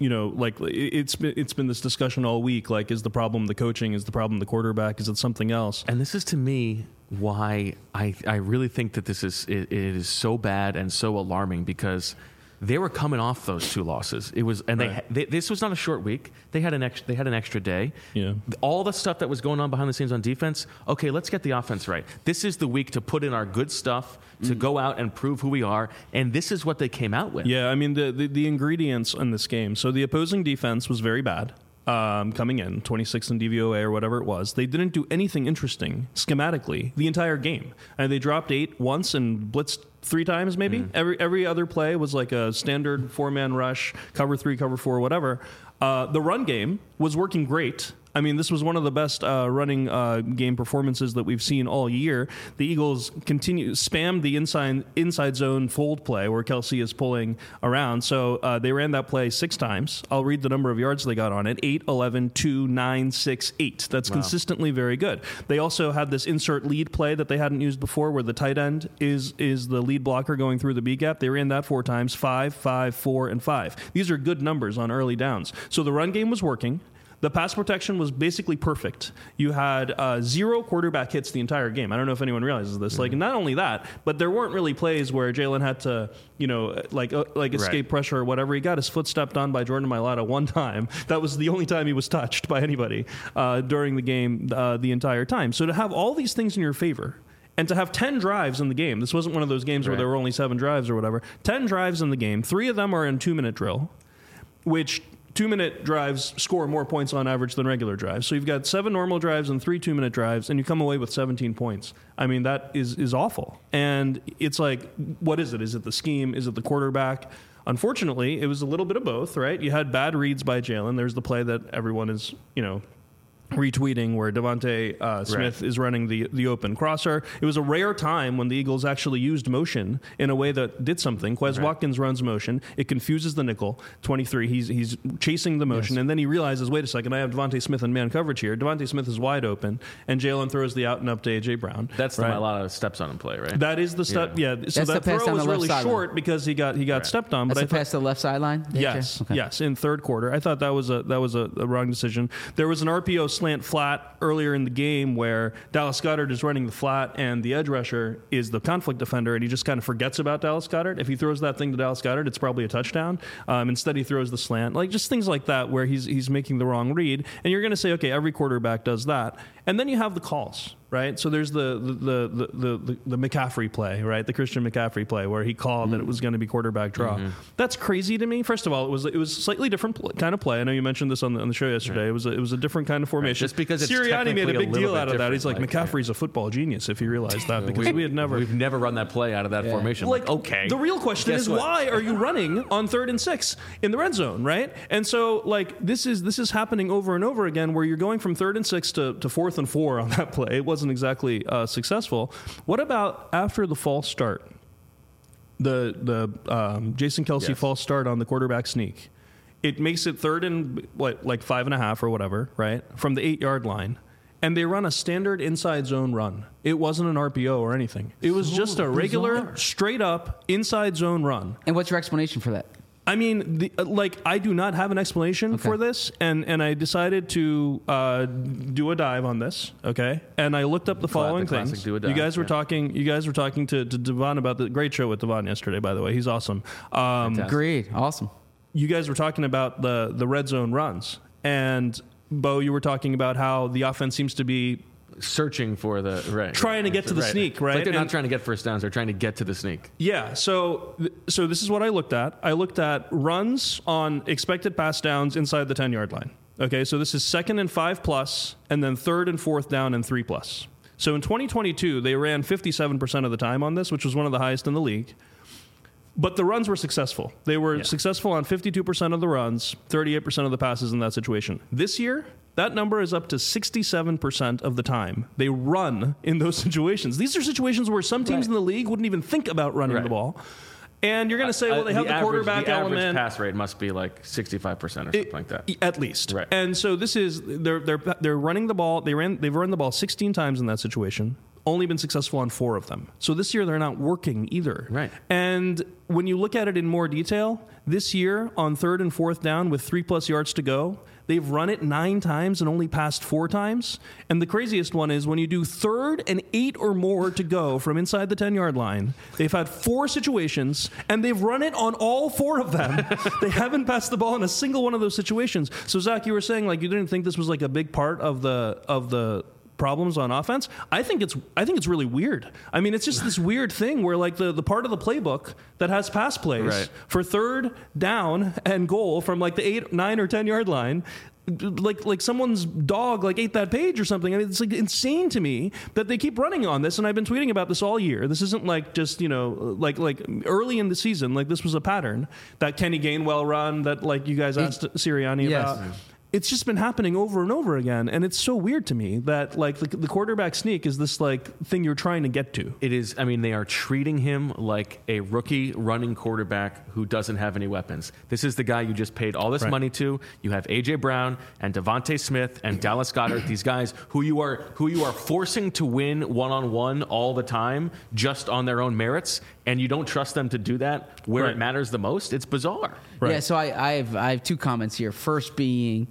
it's been this discussion all week. Is the problem the coaching? Is the problem the quarterback? Is it something else?
And this is, to me, why I really think that it is so bad and so alarming, because they were coming off those two losses. It was, and this was not a short week. They had an extra day.
Yeah.
All the stuff that was going on behind the scenes on defense. Okay, let's get the offense right. This is the week to put in our good stuff, to go out and prove who we are. And this is what they came out with.
Yeah, I mean the ingredients in this game. So the opposing defense was very bad. Coming in 26th in DVOA or whatever it was. They didn't do anything interesting schematically the entire game, and they dropped 8 once and blitzed 3 times maybe. Every other play was like a standard 4-man rush, cover 3, cover 4, whatever. The run game was working great. I mean, this was one of the best running game performances that we've seen all year. The Eagles spammed the inside zone fold play where Kelsey is pulling around. So they ran that play 6 times. I'll read the number of yards they got on it: 8, 11, 2, 9, 6, 8. That's consistently very good. They also had this insert lead play that they hadn't used before, where the tight end is the lead blocker going through the B gap. They ran that 4 times: 5, 5, 4, and 5. These are good numbers on early downs. So the run game was working. The pass protection was basically perfect. You had 0 quarterback hits the entire game. I don't know if anyone realizes this. Not only that, but there weren't really plays where Jalen had to, escape pressure or whatever. He got his foot stepped on by Jordan Mailata one time. That was the only time he was touched by anybody during the game the entire time. So to have all these things in your favor, and to have 10 drives in the game, this wasn't one of those games where there were only 7 drives or whatever. 10 drives in the game. 3 of them are in 2-minute drill, which 2-minute drives score more points on average than regular drives. So you've got 7 normal drives and 3 2-minute drives, and you come away with 17 points. I mean, that is awful. And it's what is it? Is it the scheme? Is it the quarterback? Unfortunately, it was a little bit of both, right? You had bad reads by Jalen. There's the play that everyone is, retweeting where Devontae Smith is running the open crosser. It was a rare time when the Eagles actually used motion in a way that did something. Quez Watkins runs motion. It confuses the nickel. 23, he's chasing the motion, and then he realizes, wait a second, I have Devontae Smith in man coverage here. Devontae Smith is wide open, and Jalen throws the out and up to A.J. Brown.
That's a lot of steps on him play, right?
That is the step, yeah. So
That's
that throw was really short because he got stepped on.
That's
But
the pass to the left sideline?
Yes,
Okay.
yes, in third quarter. I thought that was a wrong decision. There was an RPO slant flat earlier in the game where Dallas Goedert is running the flat and the edge rusher is the conflict defender, and he just kind of forgets about Dallas Goedert. If he throws that thing to Dallas Goedert, it's probably a touchdown. Instead, he throws the slant. Like, just things like that where he's making the wrong read. And you're going to say, okay, every quarterback does that. And then you have the calls, right? So there's the McCaffrey play, right? The Christian McCaffrey play where he called that it was going to be quarterback draw. That's crazy to me. First of all, it was a slightly different kind of play. I know you mentioned this on the show yesterday. It was a different kind of formation.
Just because it's
Sirianni made a big deal out of that. He's like,
like,
McCaffrey's a football genius, if you realize that, because we've
never run that play out of that formation.
Like,
okay.
The real question is, why are you running on 3rd and 6 in the red zone, right? And so, like, this is happening over and over again, where you're going from 3rd and 6 to 4th and 4 on that play. It wasn't exactly successful. What about after the false start? The Jason Kelce false start on the quarterback sneak. It makes it 3rd and like 5.5 or whatever, right? From the 8-yard line. And they run a standard inside zone run. It wasn't an RPO or anything. It was just a regular, straight up inside zone run.
And what's your explanation for that?
I mean, I do not have an explanation for this, and I decided to do a dive on this. Okay, and I looked up the following things. You guys were talking. You guys were talking to Devon about the great show with Devon yesterday. By the way, he's awesome.
Great, awesome.
You guys were talking about the red zone runs, and Bo, you were talking about how the offense seems to be
searching for
trying to get to the sneak, right?
Like they're not trying to get first downs; they're trying to get to the sneak.
Yeah. So this is what I looked at. I looked at runs on expected pass downs inside the 10-yard line. Okay, so this is 2nd and 5+, and then 3rd and 4th down and 3+. So in 2022, they ran 57% of the time on this, which was one of the highest in the league. But the runs were successful. They were successful on 52% of the runs, 38% of the passes in that situation. This year, that number is up to 67% of the time. They run in those situations. These are situations where some teams in the league wouldn't even think about running the ball. And you're going to say, well, they have the quarterback element.
The average pass rate must be like 65% or something like that.
At least.
Right.
And so this is, they're running the ball. They've run the ball 16 times in that situation. Only been successful on 4 of them. So this year they're not working either.
Right.
And when you look at it in more detail, this year on 3rd and 4th down with 3+ yards to go, they've run it 9 times and only passed 4 times. And the craziest one is when you do 3rd and 8 or more to go from inside the 10-yard line, they've had 4 situations and they've run it on all 4 of them. They haven't passed the ball in a single one of those situations. So Zach, you were saying like you didn't think this was like a big part of the problems on offense. I think it's really weird. I mean, it's just this weird thing where like the part of the playbook that has pass plays for 3rd down and goal from like the 8, 9, or 10-yard line, like someone's dog like ate that page or something. I mean, it's like insane to me that they keep running on this, and I've been tweeting about this all year. This isn't like just, like early in the season, like this was a pattern that Kenny Gainwell run that like you guys asked Sirianni about. It's just been happening over and over again, and it's so weird to me that like the quarterback sneak is this like thing you're trying to get to.
It is. I mean, they are treating him like a rookie running quarterback who doesn't have any weapons. This is the guy you just paid all this money to. You have A.J. Brown and Devontae Smith and Dallas Goedert. These guys who you are forcing to win one-on-one all the time just on their own merits, and you don't trust them to do that where it matters the most. It's bizarre.
Yeah, so I have 2 comments here. First being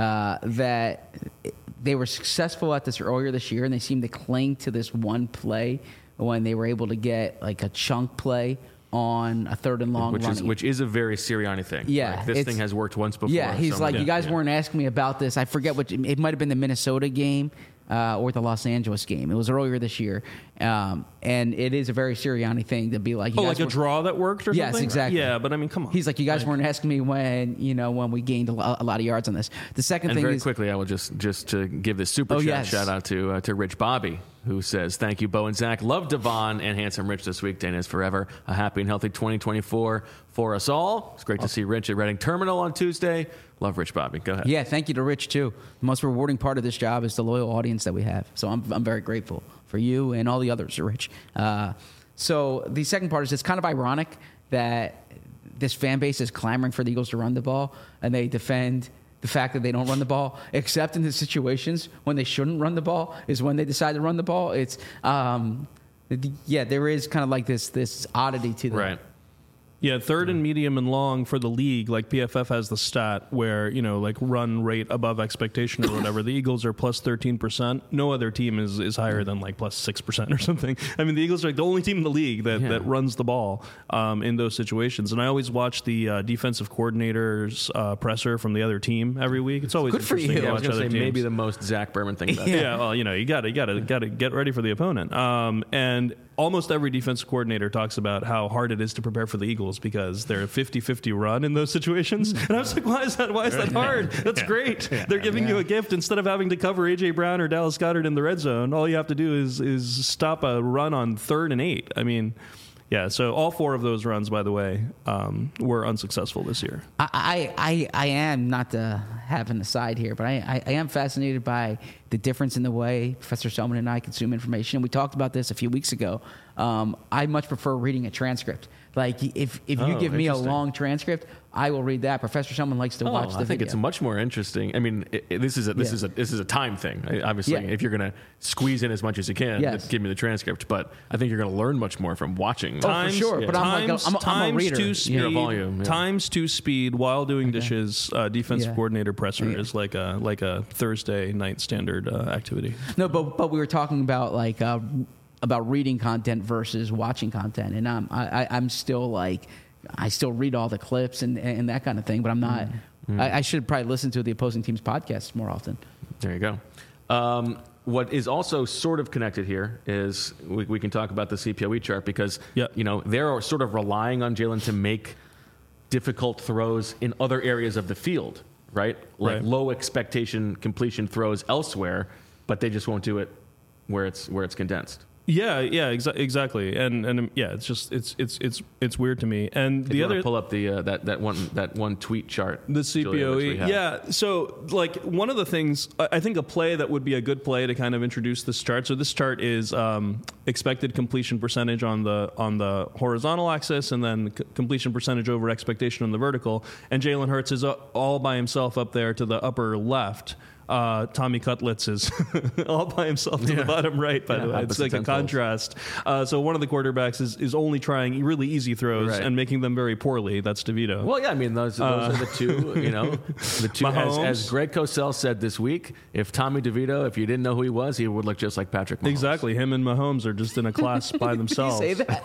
that they were successful at this earlier this year, and they seemed to cling to this one play when they were able to get like a chunk play on a 3rd and long
which is a very Sirianni thing.
Yeah,
like, this thing has worked once before.
Yeah, he's like, you guys weren't asking me about this. I forget it might have been the Minnesota game. Or the Los Angeles game. It was earlier this year. And it is a very Sirianni thing to be like...
like a draw that worked or something?
Yes, exactly.
Yeah, but I mean, come on.
He's like, you guys weren't asking me when we gained a lot of yards on this. The second thing
very
is...
quickly, I will just to give this super chat shout out to Rich Bobby, who says, thank you, Bo and Zach. Love Devon and Handsome Rich this week. Dana is forever. A happy and healthy 2024 for us all. It's great to see Rich at Reading Terminal on Tuesday. Love Rich Bobby. Go ahead.
Yeah, thank you to Rich, too. The most rewarding part of this job is the loyal audience that we have. So I'm very grateful for you and all the others, Rich. So the second part is it's kind of ironic that this fan base is clamoring for the Eagles to run the ball, and they defend the fact that they don't run the ball, except in the situations when they shouldn't run the ball is when they decide to run the ball. It's, there is kind of like this oddity to that.
Right.
Yeah, third and medium and long for the league, like PFF has the stat where, like run rate above expectation or whatever. The Eagles are plus 13%. No other team is higher than like plus 6% or something. I mean, the Eagles are like the only team in the league that runs the ball in those situations. And I always watch the defensive coordinator's presser from the other team every week. It's always
good for
interesting
you.
to
I was
watch
going to
other
say
teams.
maybe the most Zach Berman thing about it.
Yeah, well, you got to get ready for the opponent. And almost every defensive coordinator talks about how hard it is to prepare for the Eagles because they're a 50-50 run in those situations. And I was like, why is that hard? That's great. They're giving you a gift. Instead of having to cover A.J. Brown or Dallas Goedert in the red zone, all you have to do is stop a run on 3rd and 8. I mean, yeah, so all 4 of those runs, by the way, were unsuccessful this year.
I am, not to have an aside here, but I am fascinated by the difference in the way Professor Selman and I consume information. We talked about this a few weeks ago. I much prefer reading a transcript. Like, if you give me a
interesting.
long transcript, I will read that. Professor Selman likes to watch the
I think
video.
it's much more interesting. I mean, this is a time thing. Obviously,
Yeah.
if you're going to squeeze in as much as you can,
Yes.
give me the transcript. But I think you're going to learn much more from watching.
for sure. But I'm a reader.
To speed,
volume, yeah.
Times to speed while doing dishes. Defensive coordinator presser is like a Thursday night standard activity.
No, but we were talking about reading content versus watching content, and I'm still like, I still read all the clips and that kind of thing, but I'm not. I should probably listen to the opposing team's podcasts more often.
There you go. What is also sort of connected here is we can talk about the CPOE chart because they're sort of relying on Jalen to make difficult throws in other areas of the field, right? Like low expectation completion throws elsewhere, but they just won't do it where it's condensed.
Yeah, exactly, and it's just it's weird to me. And
If
the
you
other
want to pull up the that one tweet chart,
the
Julia, which we
CPOE,
have.
yeah. So like one of the things I think a play that would be a good play to kind of introduce this chart. So this chart is expected completion percentage on the horizontal axis, and then completion percentage over expectation on the vertical. And Jalen Hurts is all by himself up there to the upper left. Tommy Cutlitz is all by himself to the bottom right, by the way. It's like a contrast. So one of the quarterbacks is only trying really easy throws and making them very poorly. That's DeVito.
Well, yeah, I mean, those are the two, the two, as Greg Cosell said this week, if Tommy DeVito, if you didn't know who he was, he would look just like Patrick Mahomes.
Exactly. Him and Mahomes are just in a class by themselves.
Did you say that?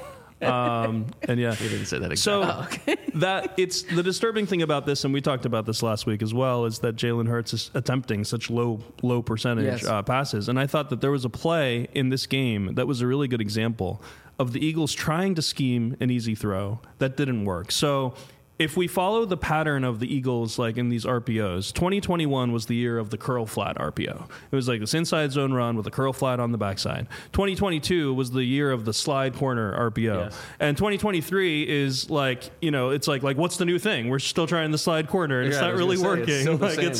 And yeah,
He didn't say that exactly.
So that it's the disturbing thing about this, and we talked about this last week as well, is that Jalen Hurts is attempting such low percentage passes. And I thought that there was a play in this game that was a really good example of the Eagles trying to scheme an easy throw that didn't work. So if we follow the pattern of the Eagles, like in these RPOs, 2021 was the year of the curl flat RPO. It was like this inside zone run with a curl flat on the backside. 2022 was the year of the slide corner RPO.
Yes.
And 2023 is like, it's like what's the new thing? We're still trying the slide corner, and it's not really working.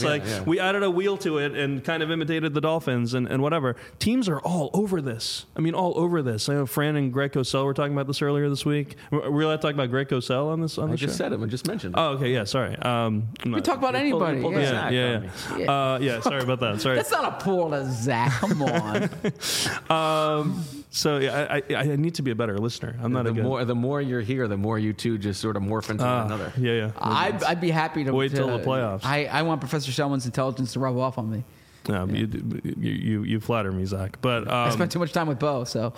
We added a wheel to it and kind of imitated the Dolphins and whatever. Teams are all over this. I mean, all over this. I know Fran and Greg Cosell were talking about this earlier this week. Were we allowed to talk about Greg Cosell on this?
I just said it. I just mentioned it.
Oh, okay, yeah, sorry.
We talk about anybody.
pulled the Zach on me.
Yeah, sorry about that. Sorry.
That's not a pull to Zach. Come on.
So yeah, I need to be a better listener. I'm not
The more you're here, the more you two just sort of morph into one another.
Yeah.
I'd be happy to
Wait till the playoffs.
I want Professor Selman's intelligence to rub off on me.
No, you flatter me, Zach. But
I spent too much time with Bo, so.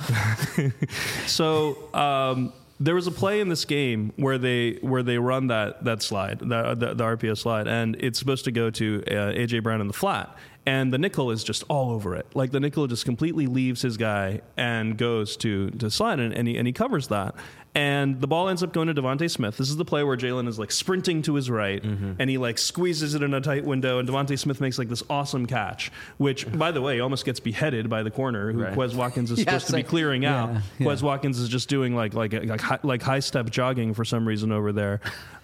There was a play in this game where they run that slide, the RPO slide, and it's supposed to go to A.J. Brown in the flat. And the nickel is just all over it. Like the nickel just completely leaves his guy and goes to slide, and he covers that. And the ball ends up going to Devontae Smith. This is the play where Jalen is like sprinting to his right, and he like squeezes it in a tight window, and Devontae Smith makes like this awesome catch, which, by the way, almost gets beheaded by the corner, who Quez Watkins is supposed to be clearing out. Quez Watkins is just doing like high step jogging for some reason over there.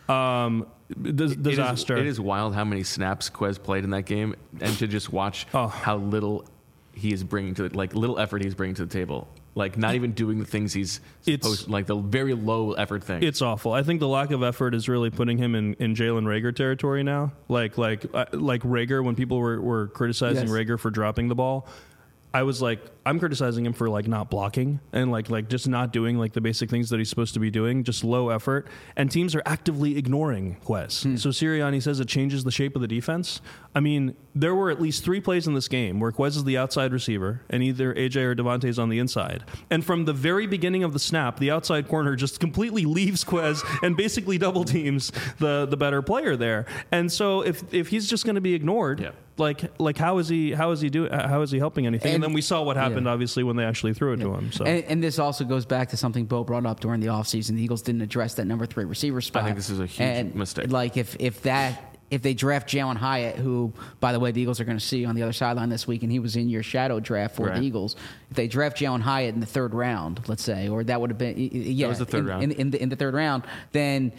Disaster.
It is wild how many snaps Quez played in that game, and to just watch how little he is bringing to little effort he's bringing to the table. Like, not even doing the things he's supposed, like the very low effort thing.
It's awful. I think the lack of effort is really putting him in Jalen Reagor territory now. Like Reagor, when people were criticizing Reagor for dropping the ball, I was like, I'm criticizing him for like not blocking and like just not doing like the basic things that he's supposed to be doing, just low effort. And teams are actively ignoring Quez. So Sirianni says it changes the shape of the defense. I mean, there were at least 3 plays in this game where Quez is the outside receiver and either AJ or Devontae is on the inside. And from the very beginning of the snap, the outside corner just completely leaves Quez and basically double teams the better player there. And so if he's just going to be ignored, like how is he helping anything? And then we saw what happened, obviously, when they actually threw it to him. So
and this also goes back to something Bo brought up during the offseason. The Eagles didn't address that number 3 receiver spot.
I think this is a huge mistake.
Like if they draft Jalen Hyatt, who, by the way, the Eagles are going to see on the other sideline this week, and he was in your shadow draft for the Eagles. If they draft Jalen Hyatt in the 3rd round, let's say, or that would have been that
was the 3rd round.
In the 3rd round, then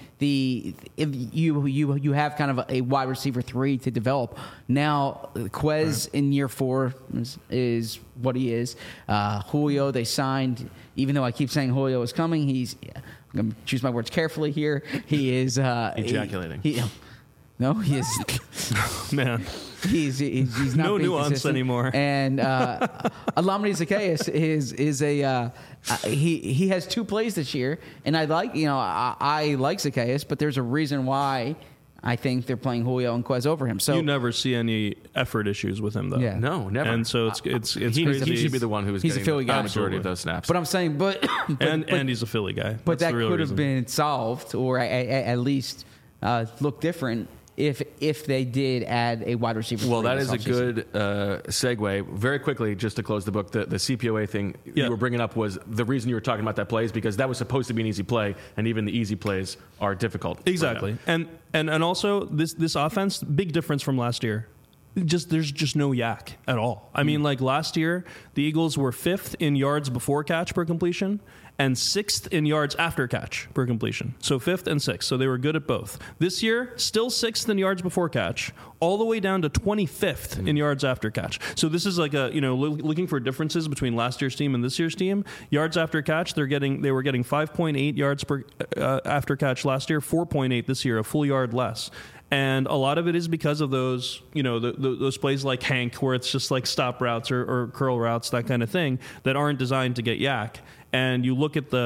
if you have kind of a wide receiver 3 to develop. Now Quez in year 4 is what he is. Julio, they signed, even though I keep saying Julio is coming, I'm going to choose my words carefully here. He is
ejaculating.
No, he is.
Man,
he's not
no
being
nuance
consistent.
anymore.
And Olamide Zaccheaus is a he has 2 plays this year, and I like Zaccheaus, but there's a reason why I think they're playing Julio and Quez over him. So
you never see any effort issues with him, though.
Yeah.
No, never.
And so it's crazy.
He should be the one who was getting
a Philly
the
guy.
majority of those snaps.
But I'm saying, but
he's a Philly guy.
But
That's
that could have been solved, or at least look different if they did add a wide receiver.
Well, that is a good segue. Very quickly, just to close the book, the CPOA thing you were bringing up was the reason you were talking about that play is because that was supposed to be an easy play, and even the easy plays are difficult.
Exactly. And also, this offense, big difference from last year. There's just no yak at all. I mean, like last year, the Eagles were 5th in yards before catch per completion and 6th in yards after catch per completion. So 5th and 6th. So they were good at both. This year, still 6th in yards before catch, all the way down to 25th in yards after catch. So this is like looking for differences between last year's team and this year's team. Yards after catch, they were getting 5.8 yards per after catch last year, 4.8 this year, a full yard less. And a lot of it is because of those, those plays like Hank, where it's just like stop routes or curl routes, that kind of thing, that aren't designed to get yak. And you look at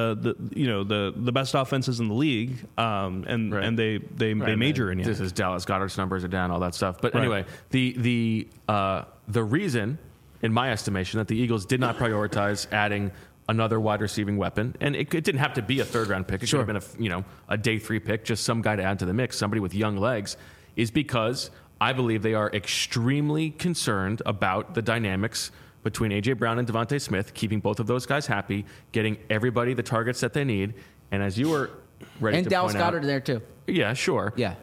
the best offenses in the league, and they major in yak.
This is Dallas Goedert's numbers are down, all that stuff. But anyway, the reason, in my estimation, that the Eagles did not prioritize adding another wide receiving weapon, and it didn't have to be a 3rd round pick. It could have been a day 3 pick, just some guy to add to the mix, somebody with young legs, is because I believe they are extremely concerned about the dynamics between A.J. Brown and Devontae Smith, keeping both of those guys happy, getting everybody the targets that they need, and as you were ready
and
to
Dallas
point out,
Goedert there too.
Yeah, sure.
Yeah.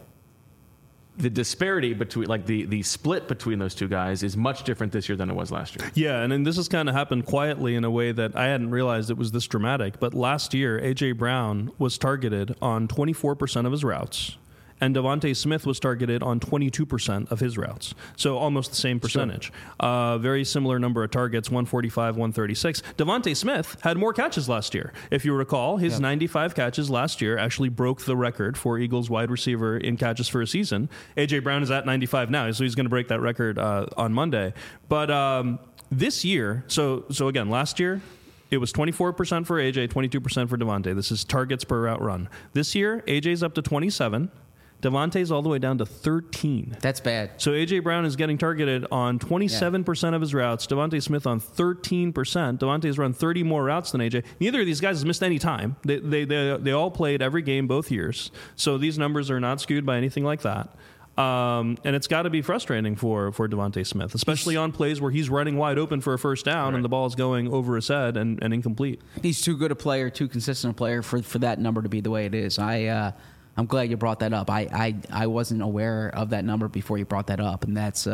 The disparity between, like the split between those two guys is much different this year than it was last year.
Yeah, and then this has kind of happened quietly in a way that I hadn't realized it was this dramatic. But last year, A.J. Brown was targeted on 24% of his routes, and Devontae Smith was targeted on 22% of his routes. So almost the same percentage. Sure. Very similar number of targets, 145, 136. Devontae Smith had more catches last year. If you recall, his 95 catches last year actually broke the record for Eagles wide receiver in catches for a season. A.J. Brown is at 95 now, so he's going to break that record on Monday. But this year, so again, last year, it was 24% for AJ, 22% for Devontae. This is targets per route run. This year, AJ's up to 27. Devontae's all the way down to 13.
That's bad.
So A.J. Brown is getting targeted on 27% of his routes. Devontae Smith on 13%. Devontae's run 30 more routes than A.J. Neither of these guys has missed any time. They all played every game both years. So these numbers are not skewed by anything like that. And it's got to be frustrating for Devontae Smith, especially on plays where he's running wide open for a first down and the ball is going over his head and incomplete.
He's too good a player, too consistent a player for that number to be the way it is. I'm glad you brought that up. I wasn't aware of that number before you brought that up, and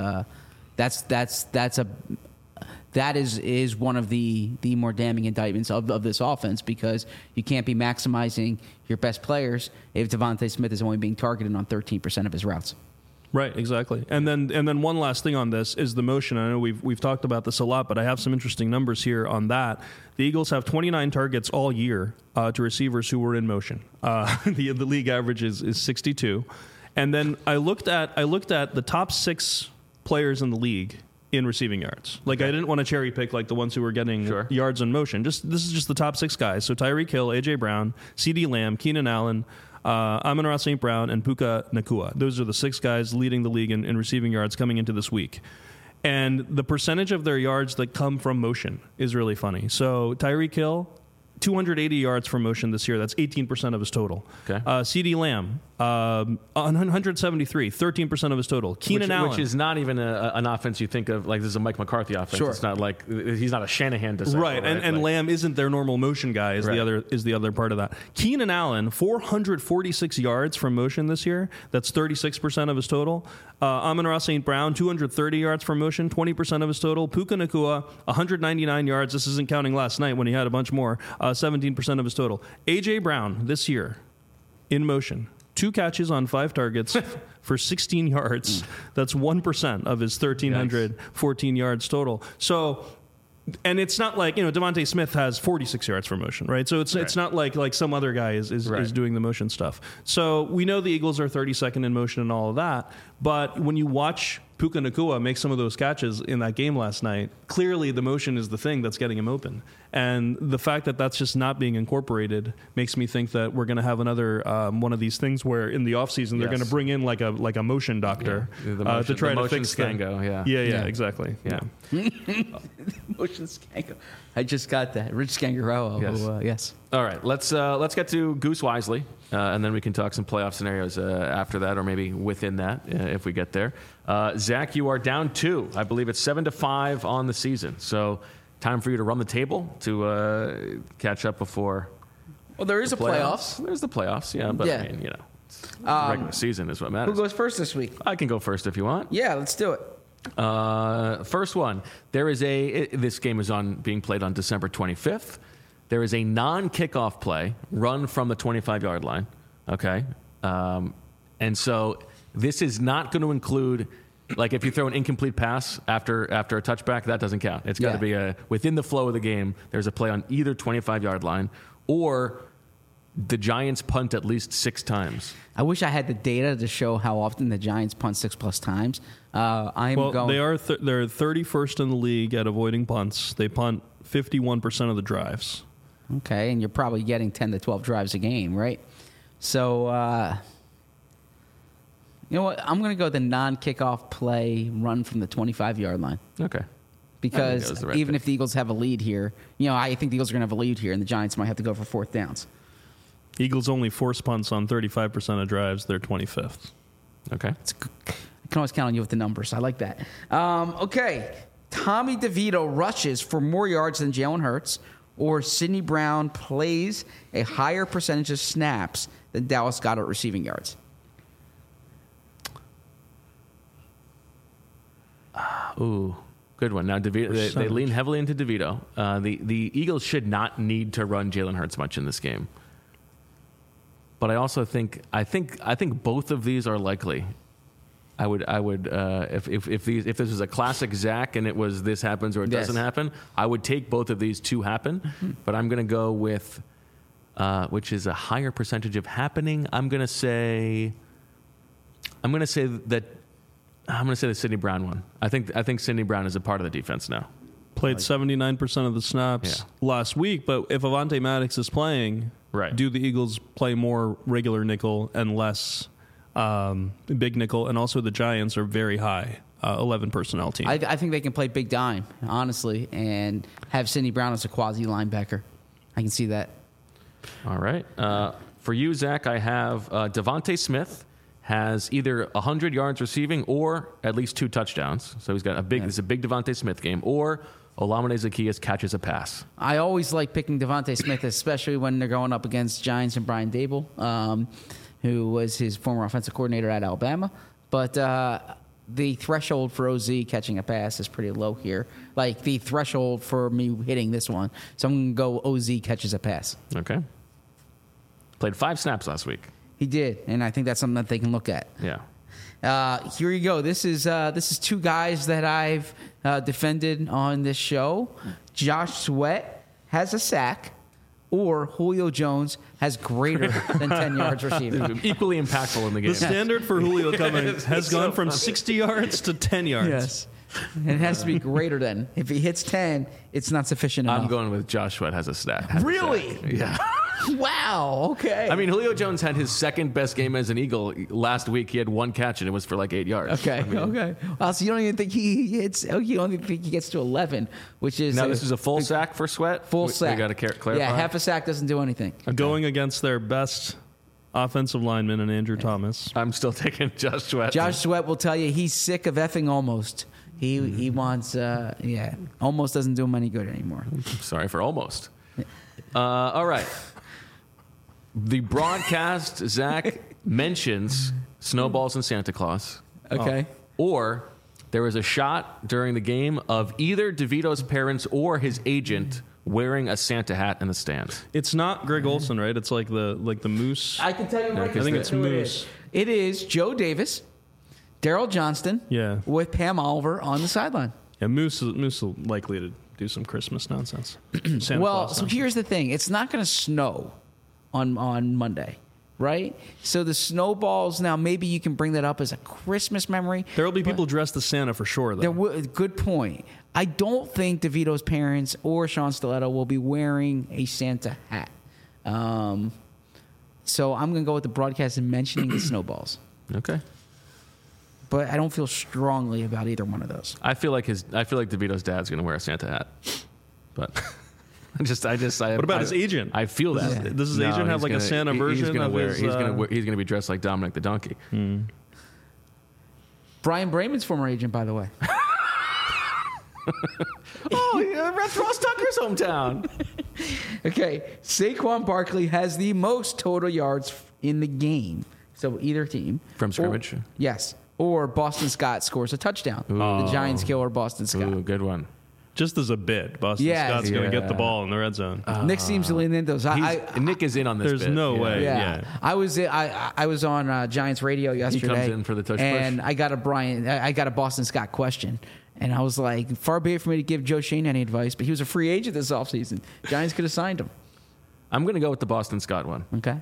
that is one of the more damning indictments of this offense, because you can't be maximizing your best players if Devontae Smith is only being targeted on 13% of his routes.
Right, exactly. And then one last thing on this is the motion. I know we've talked about this a lot, but I have some interesting numbers here on that. The Eagles have 29 targets all year to receivers who were in motion. The league average is 62. And then I looked at the top 6 players in the league in receiving yards. Like, I didn't want to cherry pick like the ones who were getting yards in motion. This is just the top 6 guys. So Tyreek Hill, A.J. Brown, CeeDee Lamb, Keenan Allen, Amon-Ra St. Brown, and Puka Nacua. Those are the 6 guys leading the league in receiving yards coming into this week. And the percentage of their yards that come from motion is really funny. So Tyreek Hill, 280 yards from motion this year. That's 18% of his total.
Okay.
CeeDee Lamb, 173, 13% of his total. Keenan Allen.
Which is not even an offense you think of, like this is a Mike McCarthy offense.
Sure.
It's not like, he's not a Shanahan disciple.
Right, and Lamb isn't their normal motion guy, is the other part of that. Keenan Allen, 446 yards from motion this year. That's 36% of his total. Amon-Ra St. Brown, 230 yards from motion, 20% of his total. Puka Nacua, 199 yards. This isn't counting last night when he had a bunch more. 17% of his total. A.J. Brown this year in motion, 2 catches on 5 targets for 16 yards. That's 1% of his 1,314 yards total. So, and it's not like, Devontae Smith has 46 yards for motion, right? So it's not like some other guy is doing the motion stuff. So we know the Eagles are 32nd in motion and all of that, but when you watch Puka Nacua make some of those catches in that game last night, clearly the motion is the thing that's getting him open. And the fact that that's just not being incorporated makes me think that we're going to have another one of these things where in the offseason they're going to bring in like a motion doctor to try to fix
Scango.
Yeah, exactly.
Yeah.
Motion Scango. I just got that. Rich Scangarello. Yes.
All right, let's get to Goose Wisely, and then we can talk some playoff scenarios after that, or maybe within that if we get there. Zach, you are down 2. I believe it's 7-5 on the season. So time for you to run the table to catch up before.
Well, there is a playoffs.
There's the playoffs, yeah. But I mean, regular season is what matters.
Who goes first this week?
I can go first if you want.
Yeah, let's do it.
First one. There is this game is being played on December 25th. There is a non-kickoff play run from the 25-yard line. Okay, and so this is not going to include, like, if you throw an incomplete pass after a touchback, that doesn't count. It's got to be within the flow of the game. There's a play on either 25-yard line or the Giants punt at least 6 times.
I wish I had the data to show how often the Giants punt 6+ times.
They are they're 31st in the league at avoiding punts. They punt 51% of the drives.
Okay, and you're probably getting 10 to 12 drives a game, right? So, you know what? I'm going to go the non-kickoff play run from the 25-yard line.
Okay.
Because even if the Eagles have a lead here, I think the Eagles are going to have a lead here, and the Giants might have to go for 4th downs.
Eagles only force punts on 35% of drives. They're 25th.
Okay.
I can always count on you with the numbers. I like that. Okay. Tommy DeVito rushes for more yards than Jalen Hurts, or Sidney Brown plays a higher percentage of snaps than Dallas Goedert receiving yards.
Ooh, good one. Now, DeVito, they lean heavily into DeVito. The Eagles should not need to run Jalen Hurts much in this game. But I also think both of these are likely. I would if this was a classic Zach and it was this happens or it doesn't happen, I would take both of these to happen. Mm-hmm. But I'm going to go with which is a higher percentage of happening. I'm going to say the Sidney Brown one. I think Sidney Brown is a part of the defense now.
Played 79% of the snaps last week, but if Avonte Maddox is playing, do the Eagles play more regular nickel and less big nickel? And also the Giants are very high, 11 personnel team.
I think they can play big dime, honestly, and have Sidney Brown as a quasi linebacker. I can see that.
All right. For you, Zach, I have Devontae Smith has either 100 yards receiving or at least 2 touchdowns. So he's got it's a big Devontae Smith game, or Olamide Zaccheaus catches a pass.
I always like picking Devontae Smith, especially when they're going up against Giants and Brian Dable, who was his former offensive coordinator at Alabama. But the threshold for OZ catching a pass is pretty low here. Like the threshold for me hitting this one. So I'm going to go OZ catches a pass.
Okay. Played 5 snaps last week.
He did, and I think that's something that they can look at.
Yeah.
Here you go. This is 2 guys that I've defended on this show. Josh Sweat has a sack, or Julio Jones has greater than 10 yards receiving.
Equally impactful in the game.
The standard for Julio coming has gone from 60 yards to 10 yards.
Yes. And it has to be greater than. If he hits 10, it's not sufficient enough.
I'm going with Josh Sweat has a stat.
Really?
Yeah.
Wow. Okay.
I mean, Julio Jones had his second best game as an Eagle last week. He had 1 catch, and it was for like 8 yards.
Okay.
I mean,
Okay. Well, so you don't even think he hits? You don't even think he gets to 11, which is
now this is a full sack for Sweat.
full sack.
We got to clarify.
Yeah, half a sack doesn't do anything.
Going against their best offensive lineman and Andrew Thomas.
I'm still taking Josh Sweat.
Josh Sweat will tell you he's sick of effing almost. He wants almost doesn't do him any good anymore.
Sorry for almost. All right. The broadcast, Zach, mentions snowballs and Santa Claus.
Okay.
Or there was a shot during the game of either DeVito's parents or his agent wearing a Santa hat in the stands.
It's not Greg Olson, right? It's like the Moose.
I can tell you right
I think it's
who it
Moose.
is. It is Joe Davis, Daryl Johnston,
Yeah.
with Pam Oliver on the sideline.
Yeah, Moose is likely to do some Christmas nonsense. Santa
Well,
Claus
so
nonsense.
here's the thing. It's not going to snow on Monday, right? So the snowballs, now maybe you can bring that up as a Christmas memory.
There will be people dressed as Santa for sure, though.
Good point. I don't think DeVito's parents or Sean Stiletto will be wearing a Santa hat. So I'm going to go with the broadcast and mentioning the snowballs.
Okay.
But I don't feel strongly about either one of those.
I feel like DeVito's dad's going to wear a Santa hat. But
What about his agent?
I feel that.
Does his agent have like a Santa version of his...
He's going to be dressed like Dominic the Donkey.
Brian Brayman's former agent, by the way.
Oh, yeah, Ross Tucker's hometown.
Okay, Saquon Barkley has the most total yards in the game. So either team.
From scrimmage?
Yes. Or Boston Scott scores a touchdown. The Giants killer Boston Scott.
Ooh, good one.
Just as a bit, Boston
Yeah.
Scott's going to get the ball in the red zone.
Nick seems to lean into those.
Nick is in on this
There's
bit.
no way.
Yeah. I was on Giants radio yesterday.
in for the tush
and
push.
I got a Boston Scott question. And I was like, far be it for me to give Joe Shane any advice, but he was a free agent this offseason. Giants could have signed him.
I'm going to go with the Boston Scott one.
Okay.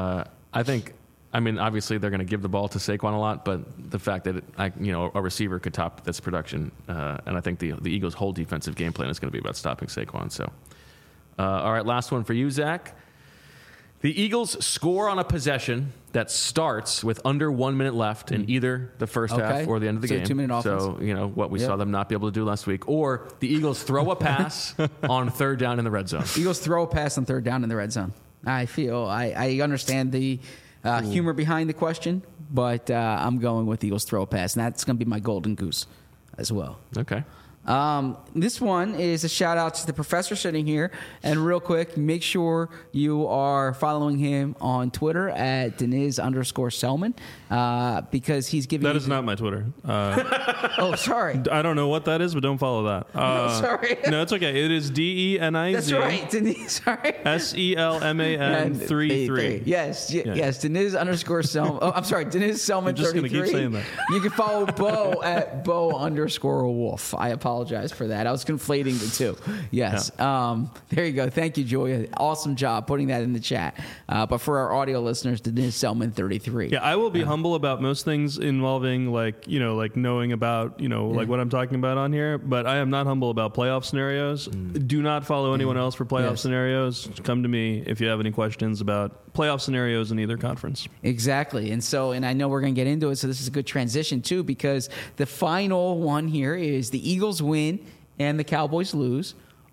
Obviously they're going to give the ball to Saquon a lot, but the fact that a receiver could top this production, and I think the Eagles' whole defensive game plan is going to be about stopping Saquon. So, all right, last one for you, Zach. The Eagles score on a possession that starts with under 1 minute left in either the first half or the end of the
So
game.
2-minute offense.
So, what we saw them not be able to do last week. Or the Eagles throw a pass on 3rd down in the red zone.
Eagles throw a pass on 3rd down in the red zone. I understand the humor behind the question, but I'm going with Eagles throw a pass, and that's going to be my golden goose as well.
Okay.
This one is a shout out to the professor sitting here. And real quick, make sure you are following him on Twitter at Deniz_Selman because he's giving
That is not my Twitter.
Oh, sorry.
I don't know what that is, but don't follow that.
Sorry.
No, it's okay. It is DENIZ.
That's right. Deniz, sorry.
SELMAN 33.
Yes, Deniz_Selman. Oh, I'm sorry, Deniz Selman.
I'm just
going to
keep saying that.
You can follow Bo at Bo_Wolf. I apologize for that. I was conflating the two. Yes.
Yeah.
There you go. Thank you, Julia. Awesome job putting that in the chat. But for our audio listeners, Deniz Selman 33.
Yeah, I will be humble about most things involving like knowing about, like what I'm talking about on here, but I am not humble about playoff scenarios. Do not follow anyone else for playoff scenarios. Come to me if you have any questions about playoff scenarios in either conference.
Exactly. And I know we're going to get into it, so this is a good transition too, because the final one here is the Eagles win and the Cowboys lose,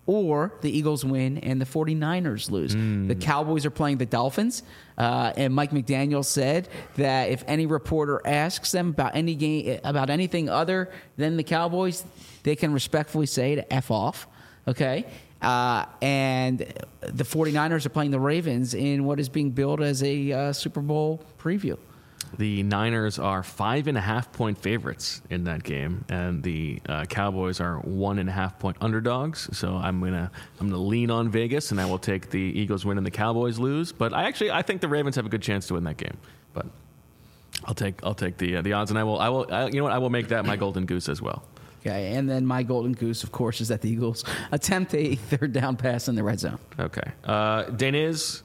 or the Eagles win and the 49ers lose. The Cowboys are playing the Dolphins, and Mike McDaniel said that if any reporter asks them about any game, about anything other than the Cowboys, they can respectfully say to F off, okay? And the 49ers are playing the Ravens in what is being billed as a Super Bowl preview.
The Niners are 5.5-point favorites in that game, and the Cowboys are 1.5-point underdogs. So I'm gonna lean on Vegas, and I will take the Eagles win and the Cowboys lose. But I think the Ravens have a good chance to win that game. But I'll take the odds, and I will make that my golden goose as well.
Okay, and then my golden goose, of course, is that the Eagles attempt a third down pass in the red zone.
Okay, Deniz.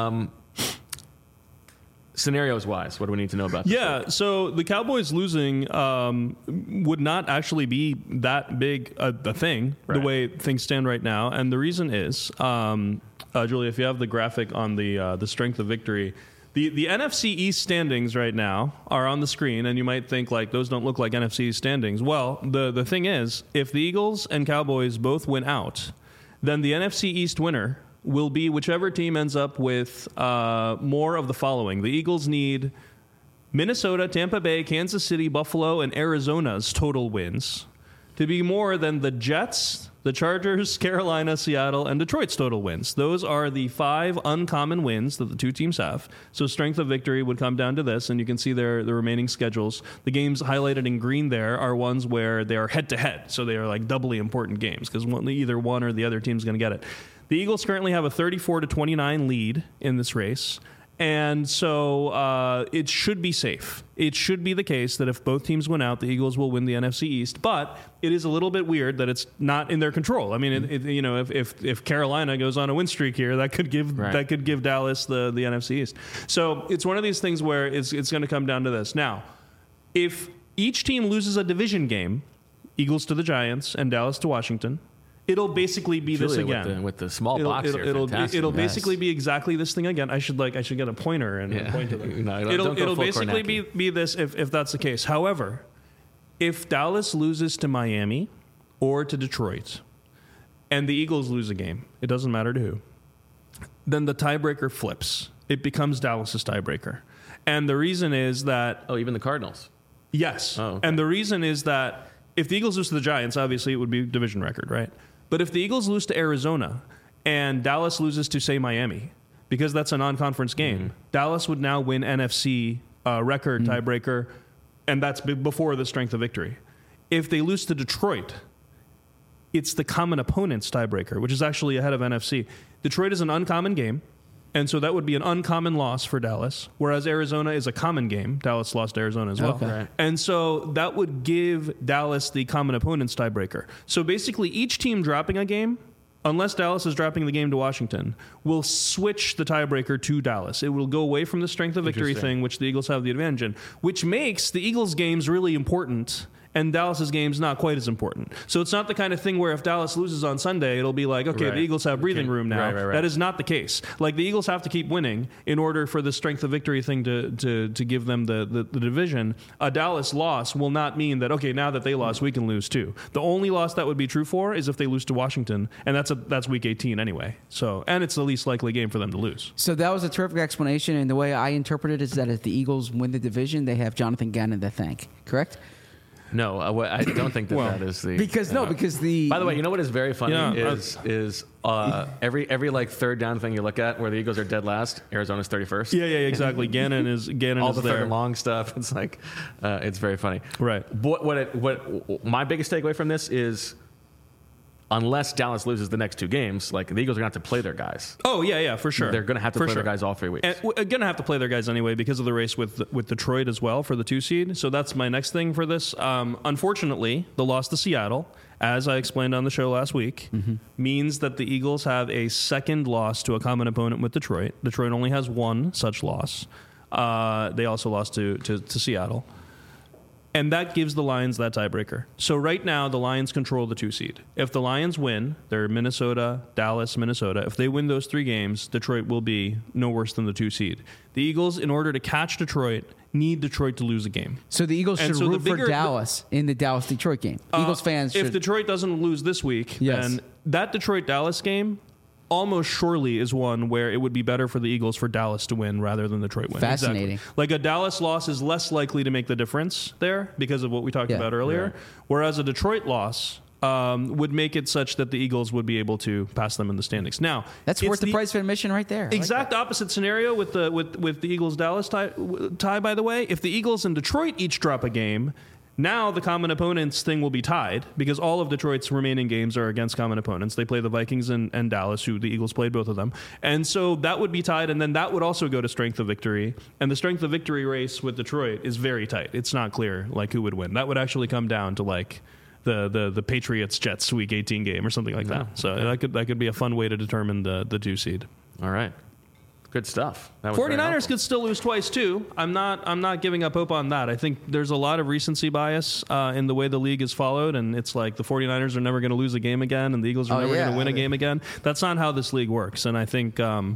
Scenarios wise, what do we need to know about this?
Yeah, so the Cowboys losing would not actually be that big a thing, the way things stand right now. And the reason is, Julia, if you have the graphic on the strength of victory, the NFC East standings right now are on the screen, and you might think, like, those don't look like NFC East standings. Well, the thing is, if the Eagles and Cowboys both win out, then the NFC East winner will be whichever team ends up with more of the following. The Eagles need Minnesota, Tampa Bay, Kansas City, Buffalo, and Arizona's total wins to be more than the Jets, the Chargers, Carolina, Seattle, and Detroit's total wins. Those are the 5 uncommon wins that the two teams have. So strength of victory would come down to this, and you can see the remaining schedules. The games highlighted in green there are ones where they are head-to-head, so they are like doubly important games because either one or the other team's going to get it. The Eagles currently have a 34-29 lead in this race, and so it should be safe. It should be the case that if both teams win out, the Eagles will win the NFC East. But it is a little bit weird that it's not in their control. I mean, if Carolina goes on a win streak here, that could give Dallas the NFC East. So it's one of these things where it's going to come down to this. Now, if each team loses a division game, Eagles to the Giants and Dallas to Washington, it'll basically be
Julia,
this again
with the small box here.
It'll basically be exactly this thing again. I should get a pointer and point to them.
No,
it'll basically be this if that's the case. However, if Dallas loses to Miami or to Detroit, and the Eagles lose a game, it doesn't matter to who, then the tiebreaker flips. It becomes Dallas's tiebreaker, and the reason is that
even the Cardinals.
Yes,
oh, okay.
And the reason is that if the Eagles lose to the Giants, obviously it would be division record, right? But if the Eagles lose to Arizona and Dallas loses to, say, Miami, because that's a non-conference game, Dallas would now win NFC record tiebreaker, and that's before the strength of victory. If they lose to Detroit, it's the common opponent's tiebreaker, which is actually ahead of NFC. Detroit is an uncommon game, and so that would be an uncommon loss for Dallas, whereas Arizona is a common game. Dallas lost to Arizona as well.
Okay.
Right.
And so that would give Dallas the common opponent's tiebreaker. So basically each team dropping a game, unless Dallas is dropping the game to Washington, will switch the tiebreaker to Dallas. It will go away from the strength of victory thing, which the Eagles have the advantage in, which makes the Eagles' games really important and Dallas's game's not quite as important. So it's not the kind of thing where if Dallas loses on Sunday, it'll be like, okay, the Eagles have breathing room now.
Right.
That is not the case. Like, the Eagles have to keep winning in order for the strength of victory thing to give them the division. A Dallas loss will not mean that, okay, now that they lost, we can lose too. The only loss that would be true for is if they lose to Washington, and that's week 18 anyway. So, and it's the least likely game for them to lose.
So that was a terrific explanation, and the way I interpret it is that if the Eagles win the division, they have Jonathan Gannon to thank. Correct?
No, I don't think that is the
because the.
By the way, you know what is very funny is every like third down thing you look at where the Eagles are dead last, Arizona's 31st.
Yeah, exactly. Gannon is
all the
there.
long stuff. It's like it's very funny.
Right.
What my biggest takeaway from this is, unless Dallas loses the next two games, like, the Eagles are going to have to play their guys.
Oh, yeah, for sure.
They're going to have to play their guys all 3 weeks.
And we're going to have to play their guys anyway because of the race with Detroit as well for the 2 seed. So that's my next thing for this. Unfortunately, the loss to Seattle, as I explained on the show last week, means that the Eagles have a second loss to a common opponent with Detroit. Detroit only has one such loss. They also lost to Seattle. And that gives the Lions that tiebreaker. So right now, the Lions control the 2 seed. If the Lions win, they're Minnesota, Dallas, Minnesota. If they win those 3 games, Detroit will be no worse than the 2 seed. The Eagles, in order to catch Detroit need Detroit to lose a game.
So the Eagles should root for Dallas in the Dallas-Detroit game. Eagles fans should.
If Detroit doesn't lose this week,
Yes.
then that Detroit-Dallas game almost surely is one where it would be better for the Eagles for Dallas to win rather than Detroit win.
Fascinating.
Exactly. Like a Dallas loss is less likely to make the difference there because of what we talked about earlier,
Right.
whereas a Detroit loss would make it such that the Eagles would be able to pass them in the standings. Now,
That's
it's
worth the price of admission right there. I like
Exact opposite scenario with the Eagles Dallas tie. By the way, if the Eagles and Detroit each drop a game, now the common opponents thing will be tied because all of Detroit's remaining games are against common opponents. They play the Vikings and Dallas, who the Eagles played both of them, and so that would be tied. And then that would also go to strength of victory. And the strength of victory race with Detroit is very tight. It's not clear like who would win. That would actually come down to like the Patriots Jets Week 18 game or something like that. So that could be a fun way to determine the 2 seed.
All right. Good stuff. That was very
49ers
helpful.
could still lose twice too. I'm not giving up hope on that. I think there's a lot of recency bias in the way the league is followed, and it's like the 49ers are never going to lose a game again, and the Eagles are never going to win a game again. That's not how this league works, and I think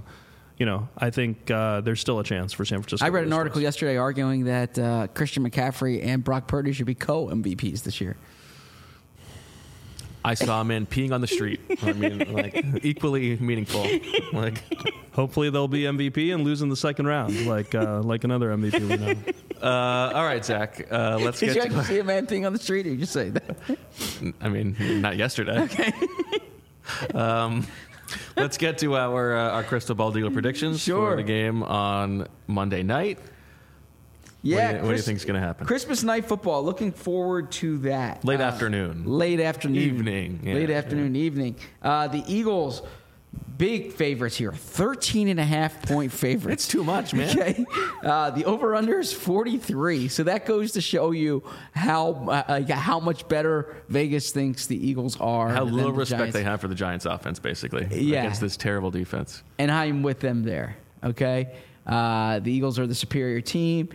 there's still a chance for San Francisco.
I read
to
an
lose
article
twice.
yesterday arguing that Christian McCaffrey and Brock Purdy should be co-MVPs this year.
I saw a man peeing on the street. I mean, like, equally meaningful. Like,
Hopefully they'll be MVP and lose in the second round, like another MVP we know.
all right, Zach. Let's
Did you
get
actually
to.
see a man peeing on the street, or you just say that?
I mean, not yesterday. Okay. Let's get to our crystal ball dealer predictions
Sure.
for the game on Monday night.
Yeah.
What do you think is going to happen?
Christmas night football. Looking forward to that.
Late afternoon.
Late afternoon.
Evening. Yeah,
Late afternoon, evening. The Eagles, big favorites here. 13.5-point favorites.
It's too much, man.
Okay. The over-under is 43. So that goes to show you how much better Vegas thinks the Eagles are.
How
than
little
the
respect
Giants.
they have for the Giants offense, basically,
Yeah.
against this terrible defense.
And I'm with them there. Okay, the Eagles are the superior team.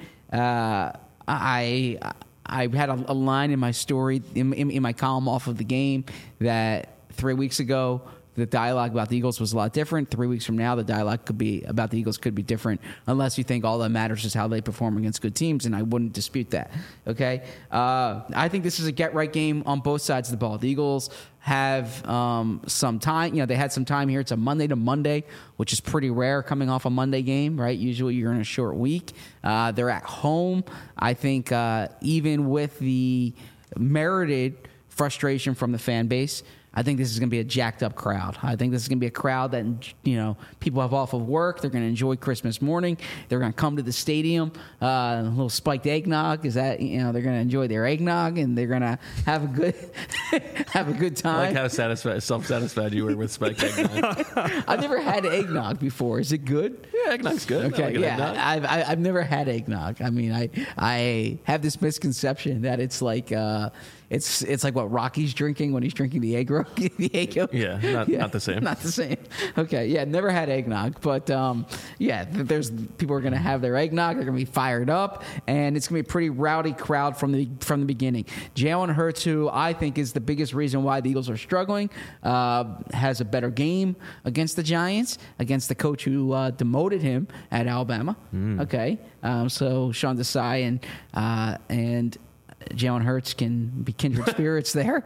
I had a line in my story in my column off of the game that 3 weeks ago the dialogue about the Eagles was a lot different. 3 weeks from now, the dialogue about the Eagles could be different, unless you think all that matters is how they perform against good teams, and I wouldn't dispute that. Okay, I think this is a get-right game on both sides of the ball. The Eagles have some time. They had some time here. It's a Monday to Monday, which is pretty rare coming off a Monday game, right? Usually you're in a short week. They're at home. I think even with the merited frustration from the fan base, I think this is going to be a jacked up crowd. I think this is going to be a crowd that, people have off of work. They're going to enjoy Christmas morning. They're going to come to the stadium. A little spiked eggnog is that, they're going to enjoy their eggnog and they're going to have a good time.
I like how self-satisfied you were with spiked eggnog.
I've never had eggnog before. Is it good?
Yeah, eggnog's good.
Okay,
I like an eggnog.
I've never had eggnog. I mean, I have this misconception that it's like it's like what Rocky's drinking when he's drinking the egg yolk.
Yeah, not the same.
Not the same. Okay, yeah, never had eggnog, but there's people are going to have their eggnog. They're going to be fired up, and it's going to be a pretty rowdy crowd from the beginning. Jalen Hurts, who I think is the biggest reason why the Eagles are struggling, has a better game against the Giants, against the coach who demoted him at Alabama. Okay, so Sean Desai and Jalen Hurts can be kindred spirits there.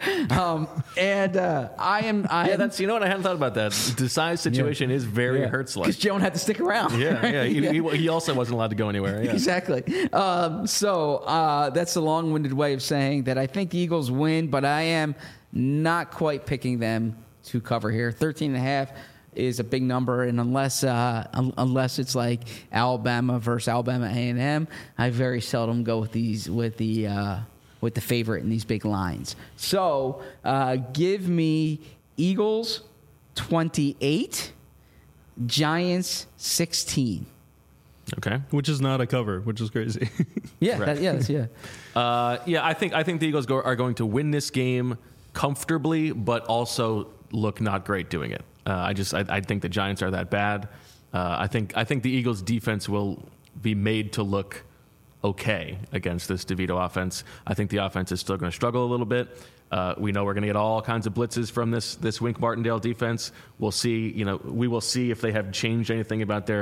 I am.
That's what I hadn't thought about that. Desai's situation is very Hurts-like.
because Jalen had to stick around.
Yeah. He also wasn't allowed to go anywhere. Yeah.
Exactly. So that's a long-winded way of saying that I think the Eagles win, but I am not quite picking them to cover here. 13.5 is a big number, and unless it's like Alabama versus Alabama A&M, I very seldom go with the favorite in these big lines. So give me Eagles 28, Giants 16.
Okay.
Which is not a cover, which is crazy.
Yeah,
Right. I think the Eagles are going to win this game comfortably, but also look not great doing it. I think the Giants are that bad. I think the Eagles' defense will be made to look okay against this DeVito offense. I think the offense is still going to struggle a little bit. We know we're going to get all kinds of blitzes from this Wink Martindale defense. We'll see. We will see if they have changed anything about their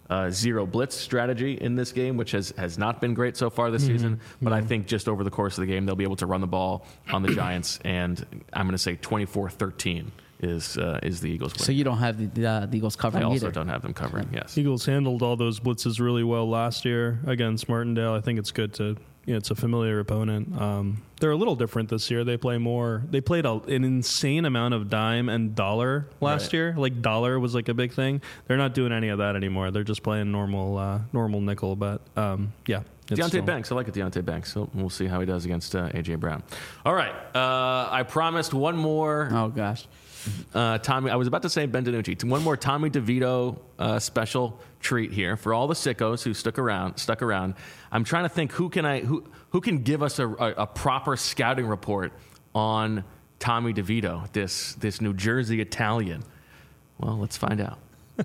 zero blitz strategy in this game, which has not been great so far this season. But I think just over the course of the game, they'll be able to run the ball on the Giants, and I'm going to say 24-13 is the Eagles' win.
So you don't have the Eagles covering
I also
either.
don't have them covering. Yes,
Eagles handled all those blitzes really well last year against Martindale. I think it's good to, it's a familiar opponent. They're a little different this year. They play more. They played an insane amount of dime and dollar last year. Like dollar was like a big thing. They're not doing any of that anymore. They're just playing normal nickel. But yeah.
Deontay Banks. I like it, Deontay Banks. So we'll see how he does against A.J. Brown. All right. I promised one more.
Oh, gosh.
Tommy, I was about to say Ben DiNucci. One more Tommy DeVito special treat here for all the sickos who stuck around. I'm trying to think who can give us a proper scouting report on Tommy DeVito, this New Jersey Italian. Well, let's find out.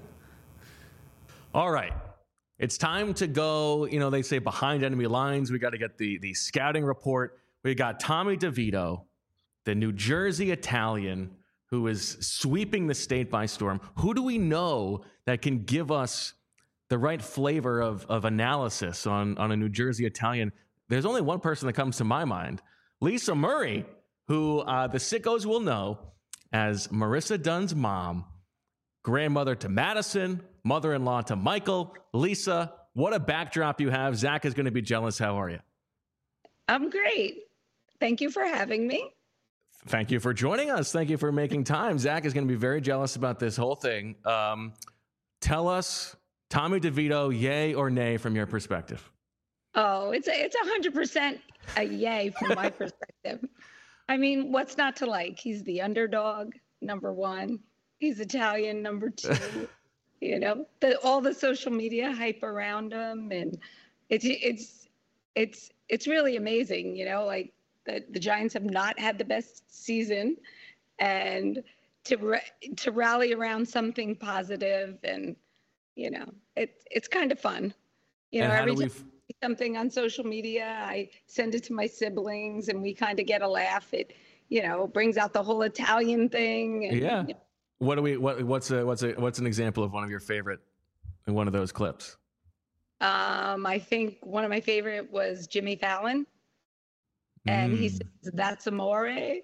All right. It's time to go, they say behind enemy lines. We got to get the scouting report. We got Tommy DeVito, the New Jersey Italian, who is sweeping the state by storm. Who do we know that can give us the right flavor of analysis on a New Jersey Italian? There's only one person that comes to my mind, Lisa Murray, who the sickos will know as Marissa Dunn's mom, grandmother to Madison, mother-in-law to Michael. Lisa, what a backdrop you have. Zach is going to be jealous. How are you?
I'm great. Thank you for having me.
Thank you for joining us. Thank you for making time. Zach is going to be very jealous about this whole thing. Tell us, Tommy DeVito, yay or nay from your perspective?
Oh, it's 100% a yay from my perspective. I mean, what's not to like? He's the underdog, number one. He's Italian, number two. All the social media hype around him, and it's really amazing. The Giants have not had the best season, and to rally around something positive, and it's kind of fun. Every time I see something on social media, I send it to my siblings, and we kind of get a laugh. It brings out the whole Italian thing. And,
yeah. What's an example of one of your favorite in one of those clips?
I think one of my favorite was Jimmy Fallon. And he says, "That's amore," and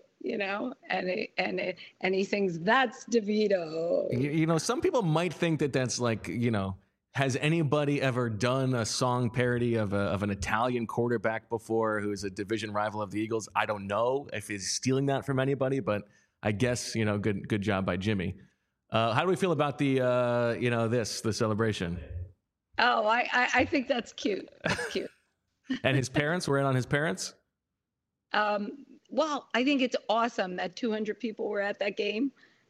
he sings, "That's DeVito."
Some people might think that that's like, has anybody ever done a song parody of an Italian quarterback before who is a division rival of the Eagles? I don't know if he's stealing that from anybody, but I guess, good job by Jimmy. How do we feel about the celebration?
Oh, I think that's cute. That's cute.
And his parents were in on his parents?
Well, I think it's awesome that 200 people were at that game.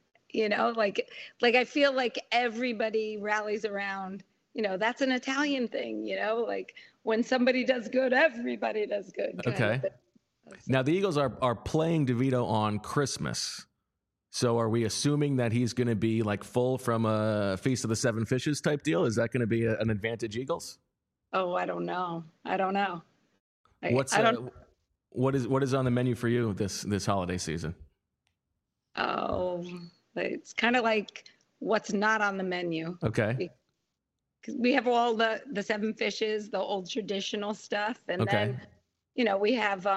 I feel like everybody rallies around, that's an Italian thing, like when somebody does good, everybody does good.
Okay. Now the Eagles are playing DeVito on Christmas. So are we assuming that he's going to be like full from a Feast of the Seven Fishes type deal? Is that going to be an advantage Eagles?
Oh, I don't know.
What is on the menu for you this holiday season?
Oh, it's kind of like what's not on the menu.
Okay.
Because we have all the seven fishes, the old traditional stuff, and then we have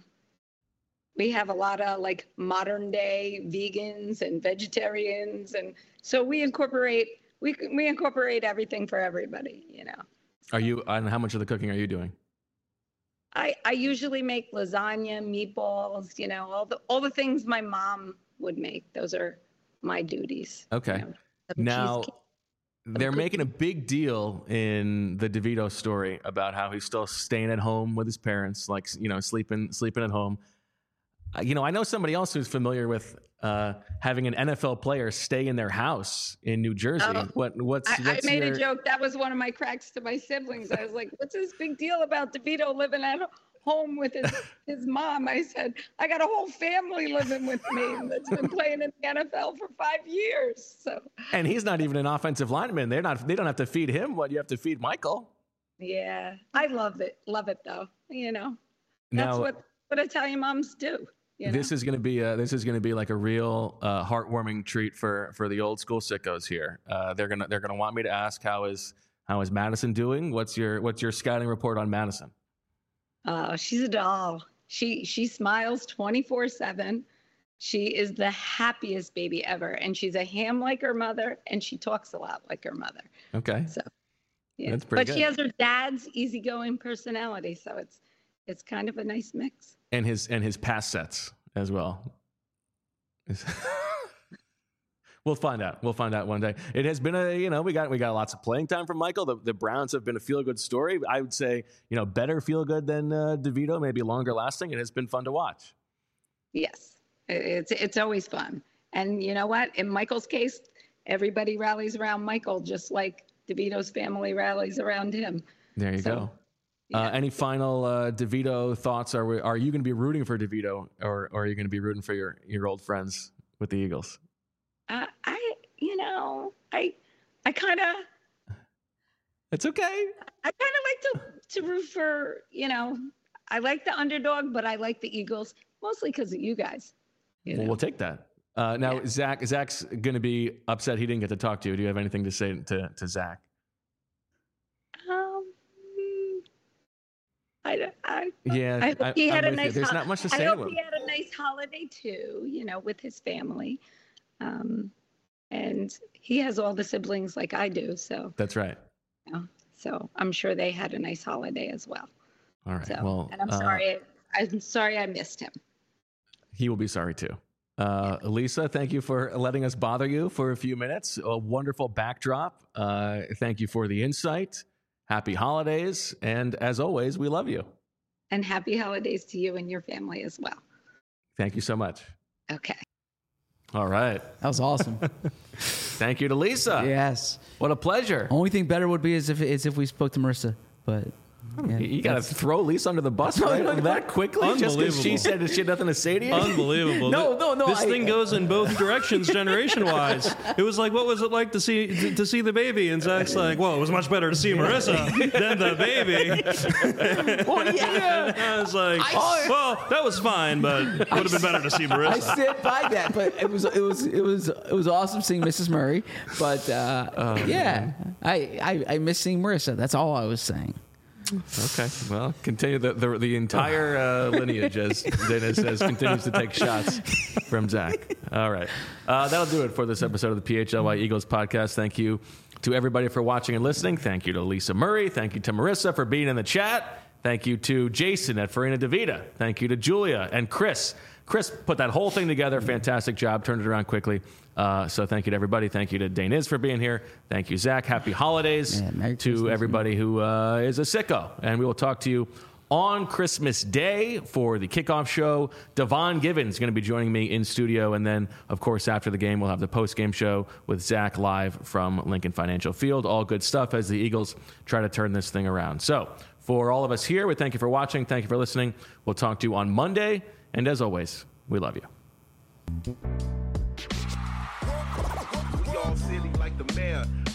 a lot of like modern day vegans and vegetarians, and so we incorporate everything for everybody.
Are you? And how much of the cooking are you doing?
I usually make lasagna, meatballs, all the things my mom would make. Those are my duties.
Okay. Now, they're making a big deal in the DeVito story about how he's still staying at home with his parents, like, sleeping at home. I know somebody else who's familiar with having an NFL player stay in their house in New Jersey.
I made a joke. That was one of my cracks to my siblings. I was like, what's this big deal about DeVito living at home with his mom? I said, I got a whole family living with me that's been playing in the NFL for 5 years. So.
And he's not even an offensive lineman. They don't have to feed him what you have to feed Michael.
Yeah, I love it. Love it though. That's what Italian moms do.
This is going to be like a real heartwarming treat for the old school sickos here. They're gonna want me to ask how is How is Madison doing? What's your scouting report on Madison?
She's a doll. She smiles 24/7. She is the happiest baby ever, and she's a ham like her mother, and she talks a lot like her mother.
Okay.
So, yeah.
That's pretty
But
good.
she has her dad's easygoing personality, so it's kind of a nice mix.
And his pass sets as well. We'll find out. We'll find out one day. It has been we got lots of playing time from Michael. The Browns have been a feel-good story. I would say, better feel-good than DeVito, maybe longer lasting. It has been fun to watch.
Yes, it's always fun. And you know what? In Michael's case, everybody rallies around Michael, just like DeVito's family rallies around him.
There you go.
Yeah.
Any final DeVito thoughts? Are you going to be rooting for DeVito, or are you going to be rooting for your old friends with the Eagles?
I kind of.
It's okay.
I kind of like to root for, I like the underdog, but I like the Eagles mostly because of you guys.
Well, we'll take that. Now, yeah. Zach's going to be upset he didn't get to talk to you. Do you have anything to say to Zach?
I hope he had a nice.
There's not much to say.
I hope he had a nice holiday too. With his family, and he has all the siblings like I do. So
that's right.
So I'm sure they had a nice holiday as well.
All right.
So,
well,
and I'm sorry. I'm sorry I missed him.
He will be sorry too. Lisa, thank you for letting us bother you for a few minutes. A wonderful backdrop. Thank you for the insight. Happy holidays. And as always, we love you.
And happy holidays to you and your family as well.
Thank you so much.
Okay.
All right.
That was awesome.
Thank you to Lisa.
Yes.
What a pleasure.
Only thing better would be is if we spoke to Marissa, but. Yeah,
you got to throw Lisa under the bus that quickly just because she said she had nothing to say to you?
Unbelievable.
No.
This thing goes in both directions generation-wise. It was like, what was it like to see the baby? And Zach's like, well, it was much better to see Marissa than the baby.
Well, yeah.
I was like, well, that was fine, but it would have been better to see Marissa.
I stood by that, but it was awesome seeing Mrs. Murray. But I miss seeing Marissa. That's all I was saying.
Okay, well, continue the entire lineage, as Dana says, continues to take shots from Zach. All right. That'll do it for this episode of the PHLY Eagles podcast. Thank you to everybody for watching and listening. Thank you to Lisa Murray. Thank you to Marissa for being in the chat. Thank you to Jason at Farina DeVita. Thank you to Julia and Chris. Chris put that whole thing together. Fantastic job. Turned it around quickly. So thank you to everybody. Thank you to Daniz for being here. Thank you, Zach. Happy holidays to everybody who is a sicko. And we will talk to you on Christmas Day for the kickoff show. Devon Givens is going to be joining me in studio. And then, of course, after the game, we'll have the post-game show with Zach live from Lincoln Financial Field. All good stuff as the Eagles try to turn this thing around. So for all of us here, we thank you for watching. Thank you for listening. We'll talk to you on Monday. And as always, we love you.
We all silly like the mayor.